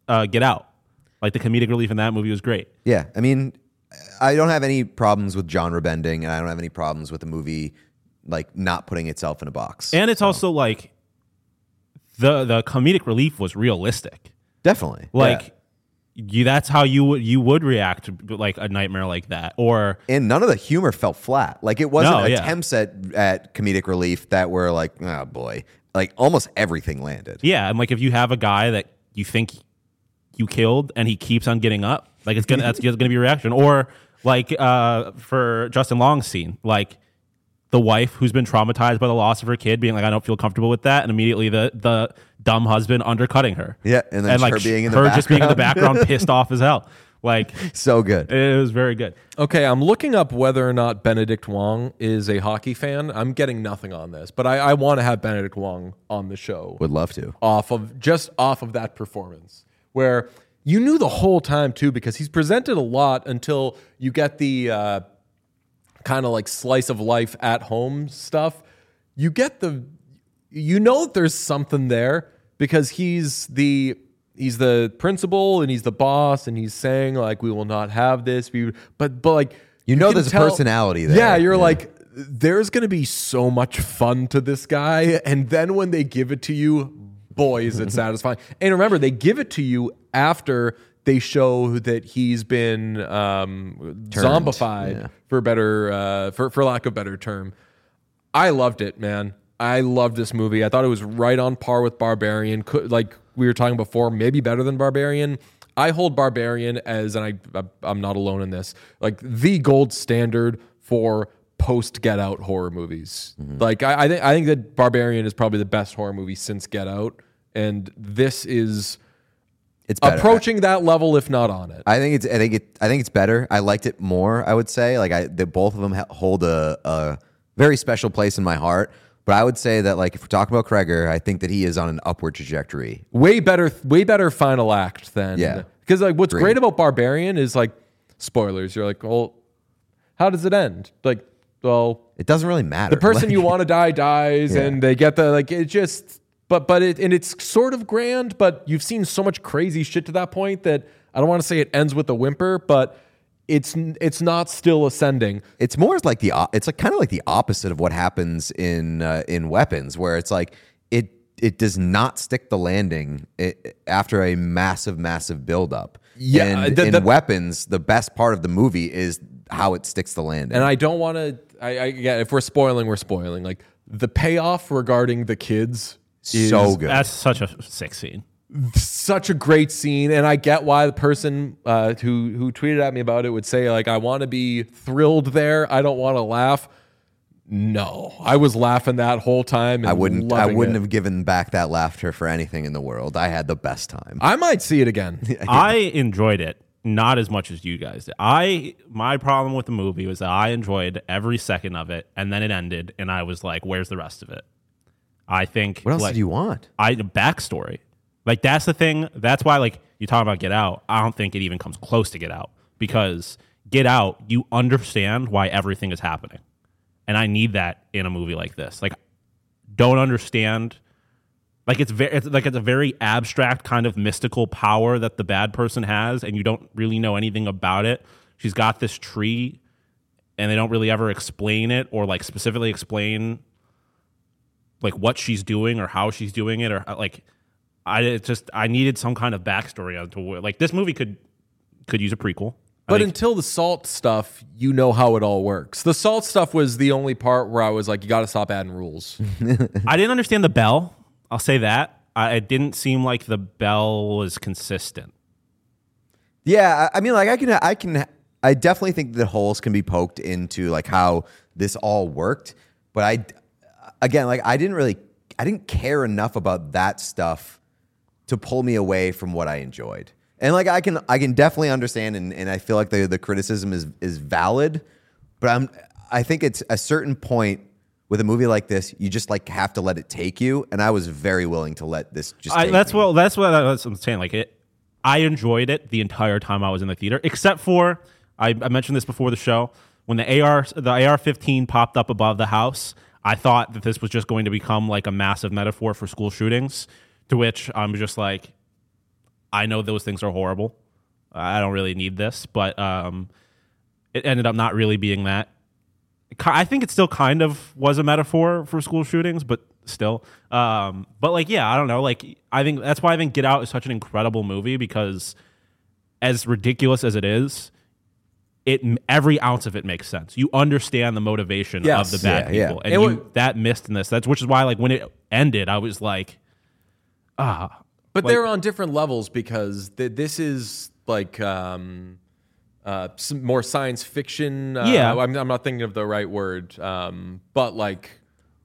uh, Get Out. Like the comedic relief in that movie was great. Yeah, I mean, I don't have any problems with genre bending, and I don't have any problems with the movie like not putting itself in a box. And it's so. also like the the comedic relief was realistic. Definitely, like. Yeah. You, that's how you would you would react to like a nightmare like that, or and none of the humor felt flat. Like it wasn't no, yeah. attempts at at comedic relief that were like, oh boy, like almost everything landed. Yeah, and like if you have a guy that you think you killed and he keeps on getting up, like it's gonna that's gonna be a reaction. Or like uh, for Justin Long's scene, like the wife who's been traumatized by the loss of her kid being like, I don't feel comfortable with that, and immediately the the dumb husband undercutting her. Yeah, and then and like her being in the her background. just being in the background, pissed off as hell. Like so good. It was very good. Okay, I'm looking up whether or not Benedict Wong is a hockey fan. I'm getting nothing on this, but I, I want to have Benedict Wong on the show. Would love to. Off of just off of that performance, where you knew the whole time too, because he's presented a lot until you get the uh, kind of like slice of life at home stuff. You get the, you know that there's something there because he's the. He's the principal and he's the boss and he's saying like we will not have this. We but but like you know can there's tell, a personality there. Yeah, you're yeah. like there's gonna be so much fun to this guy, and then when they give it to you, boy, is it satisfying. And remember, they give it to you after they show that he's been um, Turned, zombified yeah. for better uh, for for lack of a better term. I loved it, man. I loved this movie. I thought it was right on par with Barbarian. Could, like we were talking before, maybe better than Barbarian. I hold Barbarian as, and I, I'm not alone in this, like the gold standard for post Get Out horror movies. Mm-hmm. Like I, I think I think that Barbarian is probably the best horror movie since Get Out, and this is it's better. approaching that level, if not on it. I think it's I think it I think it's better. I liked it more. I would say like I the, both of them hold a, a very special place in my heart. But I would say that, like, if we're talking about Kreger, I think that he is on an upward trajectory. Way better, way better final act than yeah. Because like, what's Great. great about Barbarian is like, spoilers. You're like, well, how does it end? Like, well, it doesn't really matter. The person like, you want to die dies, yeah. and they get the like. It just, but but it and it's sort of grand. But you've seen so much crazy shit to that point that I don't want to say it ends with a whimper, but. It's it's not still ascending. It's more like the it's like kind of like the opposite of what happens in uh, in Weapons, where it's like it it does not stick the landing it, after a massive massive buildup. Yeah, and the, in the, Weapons, the best part of the movie is how it sticks the landing. And I don't want to. I, I yeah, if we're spoiling, we're spoiling. Like the payoff regarding the kids, is, so good. That's such a sick scene. Such a great scene, and I get why the person uh, who who tweeted at me about it would say like, "I want to be thrilled there. I don't want to laugh." No, I was laughing that whole time. And I wouldn't. I wouldn't it. have given back that laughter for anything in the world. I had the best time. I might see it again. I enjoyed it, not as much as you guys did. I my problem with the movie was that I enjoyed every second of it, and then it ended, and I was like, "Where's the rest of it?" I think. What else like, did you want? I backstory. Like, that's the thing. That's why, like, you talk about Get Out. I don't think it even comes close to Get Out. Because Get Out, you understand why everything is happening. And I need that in a movie like this. Like, don't understand. Like, it's, very, it's, like, it's a very abstract kind of mystical power that the bad person has, and you don't really know anything about it. She's got this tree, and they don't really ever explain it or, like, specifically explain, like, what she's doing or how she's doing it or, like... I it just I needed some kind of backstory onto like this movie could could use a prequel. But until the salt stuff, you know how it all works. The salt stuff was the only part where I was like, you got to stop adding rules. I didn't understand the bell. I'll say that. I, it didn't seem like the bell was consistent. Yeah, I mean, like I can, I can, I definitely think that holes can be poked into like how this all worked. But I, again, like I didn't really, I didn't care enough about that stuff to pull me away from what I enjoyed. And like I can I can definitely understand and, and I feel like the the criticism is is valid, but I'm I think it's a certain point with a movie like this, you just like have to let it take you. And I was very willing to let this just I, take that's me. what that's what that's what I'm saying. Like it I enjoyed it the entire time I was in the theater, except for I, I mentioned this before the show, when the A R the A R fifteen popped up above the house, I thought that this was just going to become like a massive metaphor for school shootings. To which I'm just like, I know those things are horrible. I don't really need this, but um, it ended up not really being that. I think it still kind of was a metaphor for school shootings, but still. Um, but like, yeah, I don't know. Like, I think that's why I think Get Out is such an incredible movie, because as ridiculous as it is, it every ounce of it makes sense. You understand the motivation Yes. of the bad Yeah, yeah. people, and It you, would- that missed in this. That's which is why, like, when it ended, I was like, ah. But Like- they're on different levels because th- this is like um, uh, some more science fiction. Uh, Yeah. I'm, I'm not thinking of the right word, um, but like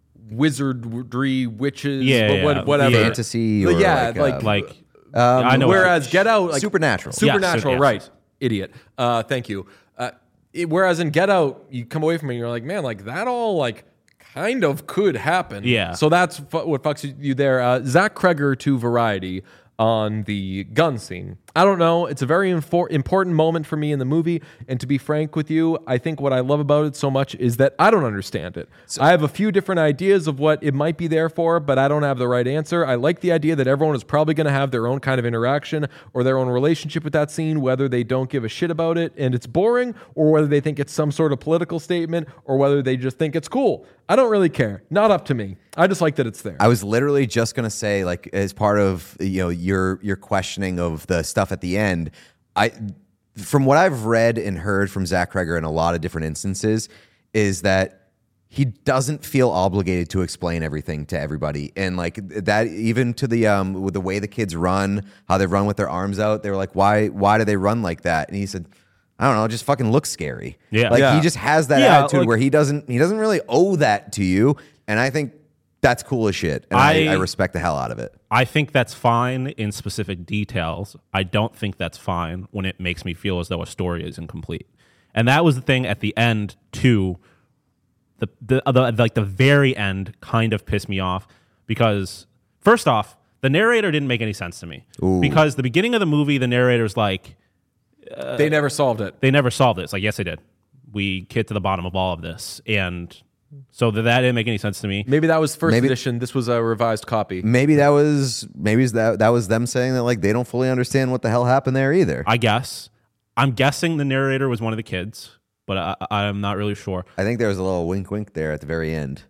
wizardry, witches, Yeah, but yeah. what, whatever. Fantasy But or yeah, like, uh, Like, Um, I know. Whereas Get Out, like Supernatural. supernatural, Yes, right? yes. Idiot. Uh, thank you. Uh, it, whereas in Get Out, you come away from it, and you're like, man, like that all like kind of could happen. Yeah. So that's fu- what fucks you there. Uh, Zach Kreger to Variety on the gun scene. I don't know. It's a very infor- important moment for me in the movie. And to be frank with you, I think what I love about it so much is that I don't understand it. I have a few different ideas of what it might be there for, but I don't have the right answer. I like the idea that everyone is probably going to have their own kind of interaction or their own relationship with that scene, whether they don't give a shit about it and it's boring, or whether they think it's some sort of political statement, or whether they just think it's cool. I don't really care. Not up to me. I just like that it's there. I was literally just gonna say, like, as part of you know your your questioning of the stuff at the end, I from what I've read and heard from Zach Kreger in a lot of different instances, is that he doesn't feel obligated to explain everything to everybody, and like that even to the um with the way the kids run, how they run with their arms out. They were like, why why do they run like that? And he said, I don't know, it just fucking looks scary. Yeah. like Yeah. he just has that Yeah, attitude like- where he doesn't he doesn't really owe that to you, and I think that's cool as shit, and I, I- I respect the hell out of it. I think that's fine in specific details. I don't think that's fine when it makes me feel as though a story is incomplete. And that was the thing at the end too. The the, the like the very end kind of pissed me off because first off, the narrator didn't make any sense to me. Because the beginning of the movie, the narrator's like, they never solved it. they never solved it. It's like, yes, they did. We get to the bottom of all of this. And so that, that didn't make any sense to me. Maybe that was first Maybe- edition. This was a revised copy. Maybe that was maybe that that was them saying that like they don't fully understand what the hell happened there either. I, I guess. I'm guessing the narrator was one of the kids, but I, I'm not really sure think there was a little wink wink there at the very end.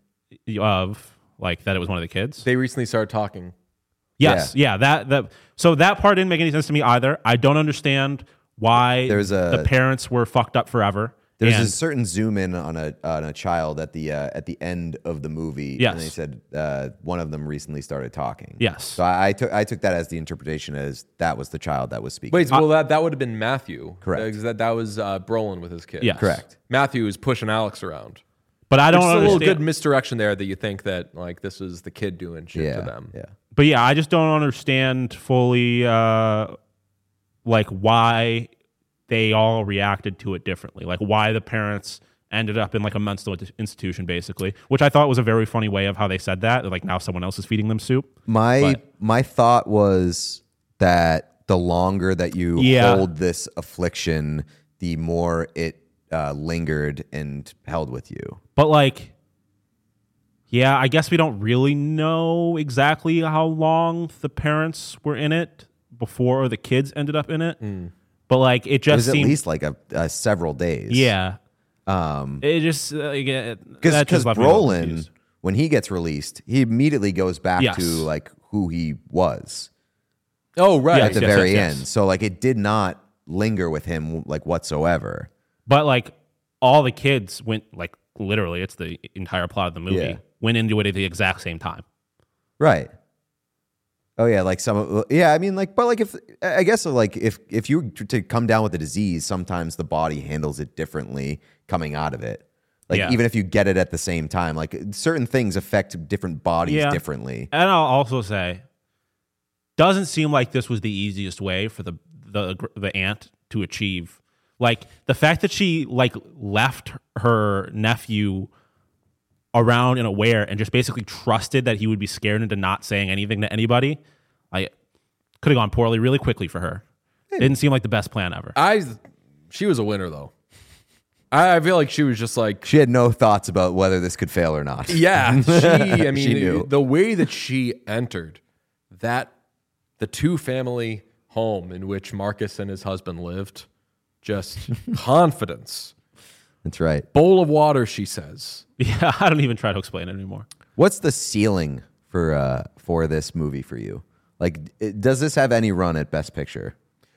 of like that it was one of the kids. They recently started talking. Yes, yeah. that that so that part didn't make any sense to me either. I don't understand why There's a- the parents were fucked up forever. There's and a certain zoom in on a on a child at the uh, at the end of the movie. Yes. and they said uh, one of them recently started talking. Yes. so I, I took I took that as the interpretation as that was the child that was speaking. Wait, well, that, that would have been Matthew. Correct. Because that, that was uh, Brolin with his kid. Yes. Correct. Matthew is pushing Alex around. but I don't There's a little understand. good misdirection there that you think that like this is the kid doing shit yeah, to them. yeah. But yeah, I just don't understand fully uh, like why they all reacted to it differently. Like why the parents ended up in like a mental institution basically, which I thought was a very funny way of how they said that. Like now someone else is feeding them soup. My But- my thought was that the longer that you Yeah. hold this affliction, the more it uh, lingered and held with you. But like, yeah, I guess we don't really know exactly how long the parents were in it before the kids ended up in it. But like, it It just was at seemed, least like a, a several days. yeah, Um, it just uh, yeah, because that just left me a little Brolin, confused. when he gets released, he immediately goes back Yes. to like who he was Oh, right. at the yes, very yes, end. yes. So like it did not linger with him like whatsoever. But like, all the kids went like literally, it's the entire plot of the movie Yeah. went into it at the exact same time. Right. Oh yeah, like some yeah, I mean like but like if I guess like if if you were to come down with a disease, sometimes the body handles it differently coming out of it. Like Yeah. even if you get it at the same time, like certain things affect different bodies Yeah. differently. And I'll also say, doesn't seem like this was the easiest way for the the the aunt to achieve. Like the fact that she like left her nephew around and aware and just basically trusted that he would be scared into not saying anything to anybody. I could have gone poorly really quickly for her. Didn't seem like the best plan ever. I, she was a winner though. I, I feel like she was just like, She had no thoughts about whether this could fail or not. yeah. She, I mean, She knew. the way that she entered that, the two family home in which Marcus and his husband lived. Just confidence. That's right. Bowl of water, she says. Yeah, I don't even try to explain it anymore. What's the ceiling for uh, for this movie for you? Like, it, does this have any run at Best Picture?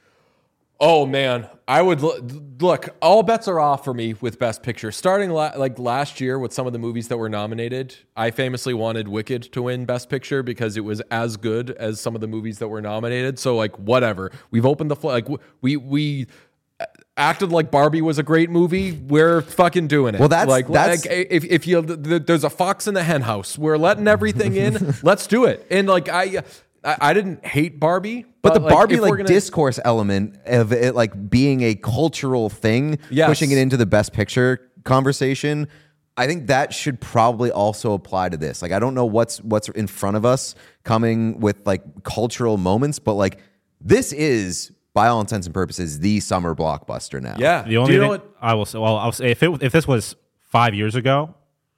Oh man, I would lo- look. All bets are off for me with Best Picture. Starting la- like last year with some of the movies that were nominated, I famously wanted Wicked to win Best Picture because it was as good as some of the movies that were nominated. So like, whatever. We've opened the fl- like w- we we acted like Barbie was a great movie. We're fucking doing it. Well, that's- like, that's- like if if you th- th- there's a fox in the hen house, we're letting everything in. Let's do it. And like I. I, I didn't hate Barbie, But, but, the like, Barbie if like we're gonna, discourse element of it like being a cultural thing, Yes. pushing it into the Best Picture conversation, I think that should probably also apply to this. Like, I don't know what's what's in front of us coming with like cultural moments, but like this is, by all intents and purposes, the summer blockbuster now. yeah. The only do you know thing what? I will say, well, I'll say if it if this was five years ago,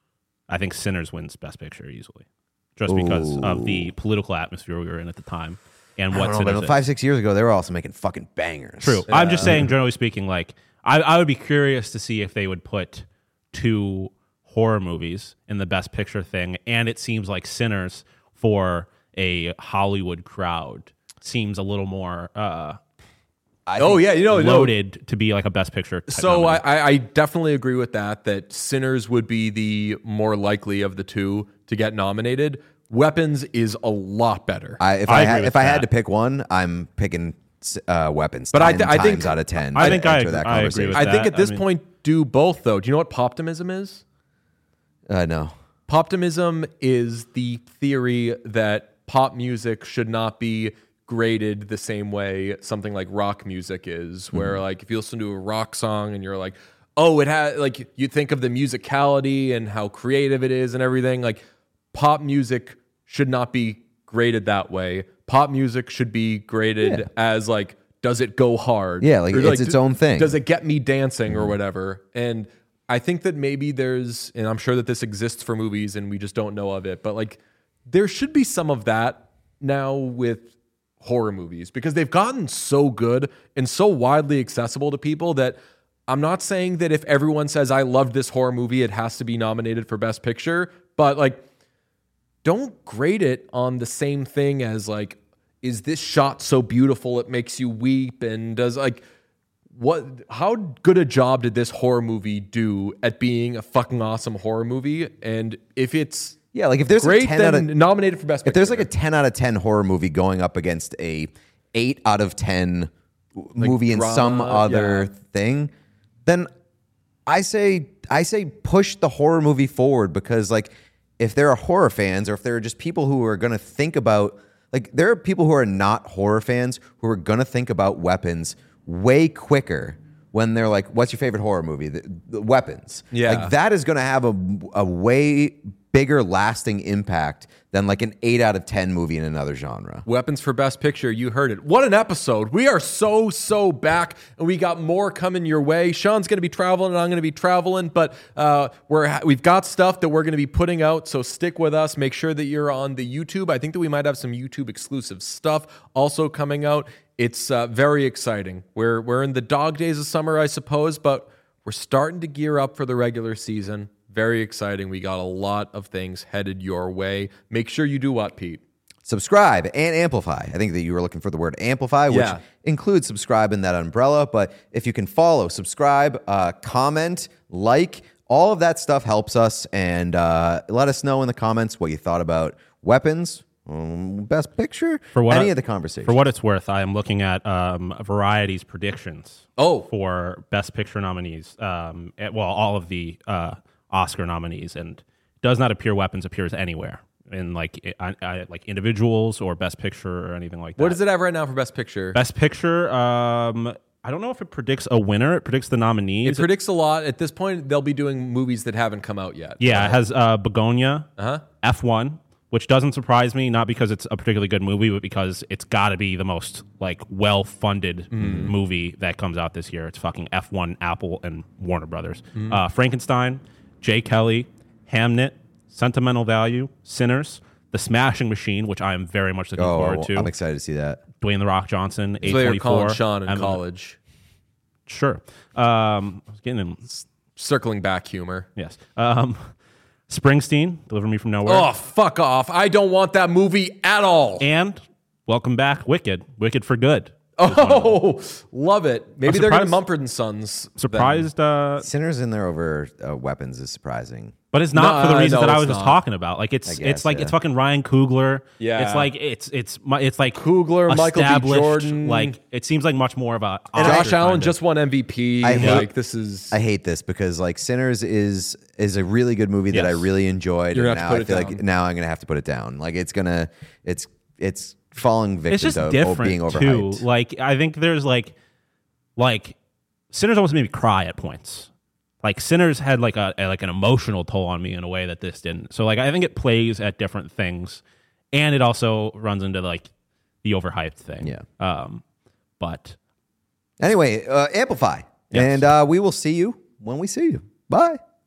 I think Sinners wins Best Picture easily, just because of the political atmosphere we were in at the time and I what don't know, Sinners but is. five, six years ago, they were also making fucking bangers. True. I'm just saying, generally speaking, like I, I would be curious to see if they would put two horror movies in the Best Picture thing, and it seems like Sinners for a Hollywood crowd seems a little more uh, I Oh think- yeah, you know, no. loaded to be like a Best Picture. Type So I, nominee. I I definitely agree with that. That Sinners would be the more likely of the two to get nominated. Weapons is a lot better. I, if I I, agree had, with if I had that. to pick one, I'm picking uh, Weapons. But I ten th- I think- times out of ten. I to think I enter agree- that I agree conversation. with I think that. at this I mean- point, do both though. Do you know what poptimism is? Uh, no. Poptimism is the theory that pop music should not be graded the same way something like rock music is, where like if you listen to a rock song and you're like, oh, it has like you think of the musicality and how creative it is and everything. Like pop music should not be graded that way. Pop music should be graded Yeah. as like, does it go hard? Yeah, like, Or, it's its d- own thing. Does it get me dancing or whatever? And I think that maybe there's, and I'm sure that this exists for movies and we just don't know of it, but like there should be some of that now with horror movies because they've gotten so good and so widely accessible to people that I'm not saying that if everyone says I loved this horror movie, it has to be nominated for Best Picture, but like don't grade it on the same thing as like, is this shot so beautiful it makes you weep? And does like, what, how good a job did this horror movie do at being a fucking awesome horror movie? And if it's Yeah, like if there's great, a ten then out of, nominated for Best Picture. if there's like a ten out of ten horror movie going up against a eight out of ten movie in drama, some other yeah. thing, then I say I say push the horror movie forward because like if there are horror fans or if there are just people who are going to think about like there are people who are not horror fans who are going to think about Weapons way quicker when they're like, what's your favorite horror movie? The, the Weapons. Yeah. Like that is going to have a, a way bigger lasting impact than like an eight out of ten movie in another genre. Weapons for Best Picture, you heard it. What an episode. We are so, so back, and we got more coming your way. Sean's going to be traveling, and I'm going to be traveling, but uh, we're, we've got stuff that we're going to be putting out, so stick with us. Make sure that you're on the YouTube. I think that we might have some YouTube-exclusive stuff also coming out. It's uh, very exciting. We're, we're in the dog days of summer, I suppose, but we're starting to gear up for the regular season. Very exciting. We got a lot of things headed your way. Make sure you do what, Pete? Subscribe and amplify. I think that you were looking for the word amplify, which Yeah. includes subscribe in that umbrella. But if you can follow, subscribe, uh, comment, like, all of that stuff helps us. And uh, let us know in the comments what you thought about Weapons, um, Best Picture, For what any I- of the conversations. For what it's worth, I am looking at um, Variety's predictions. Oh. for Best Picture nominees. Um, at- well, all of the uh, Oscar nominees, and does not appear Weapons appears anywhere in like I, I, like individuals or Best Picture or anything like that. What does it have right now for Best Picture? Best Picture. Um, I don't know if it predicts a winner. It predicts the nominees. It predicts a lot. At this point, they'll be doing movies that haven't come out yet. yeah, it has uh, Begonia, Uh-huh. F one, which doesn't surprise me, not because it's a particularly good movie, but because it's got to be the most like well-funded movie that comes out this year. It's fucking F one, Apple, and Warner Brothers. Uh, Frankenstein, Jay Kelly, Hamnet, Sentimental Value, Sinners, The Smashing Machine, which I am very much looking Oh, forward to. I'm excited to see that. Dwayne the Rock Johnson, A So they were calling twenty-four. Sean in I'm- college. Sure. Um, I was getting him. Circling back humor. Yes. Um, Springsteen, Deliver Me From Nowhere. Oh, fuck off. I don't want that movie at all. And welcome back, Wicked. Wicked for Good. Oh, love it. Maybe I'm they're going to surprised- Mumford and Sons. then. Surprised, uh, Sinners in there over uh, weapons is surprising. but it's not No, for the reasons no, that I it's was just not. talking about. Like it's I it's guess, like yeah. it's fucking Ryan Coogler. Yeah. It's like it's it's mu- it's like Coogler, Michael B. established, Jordan. Like it seems like much more of a Josh Oscar Allen kind of- just won M V P. I hate- like this is I hate this because like Sinners is is a really good movie that I Yes. really enjoyed. You're and gonna now have to I put feel it like down. now I'm gonna have to put it down. Like it's gonna it's it's falling victim it's just to different being too. overhyped. Like I think there's like like Sinners almost made me cry at points. Like Sinners had like a, a like an emotional toll on me in a way that this didn't. So like I think it plays at different things, and it also runs into like the overhyped thing. Yeah. Um, but Anyway, uh, amplify, Yes. and uh, we will see you when we see you. Bye.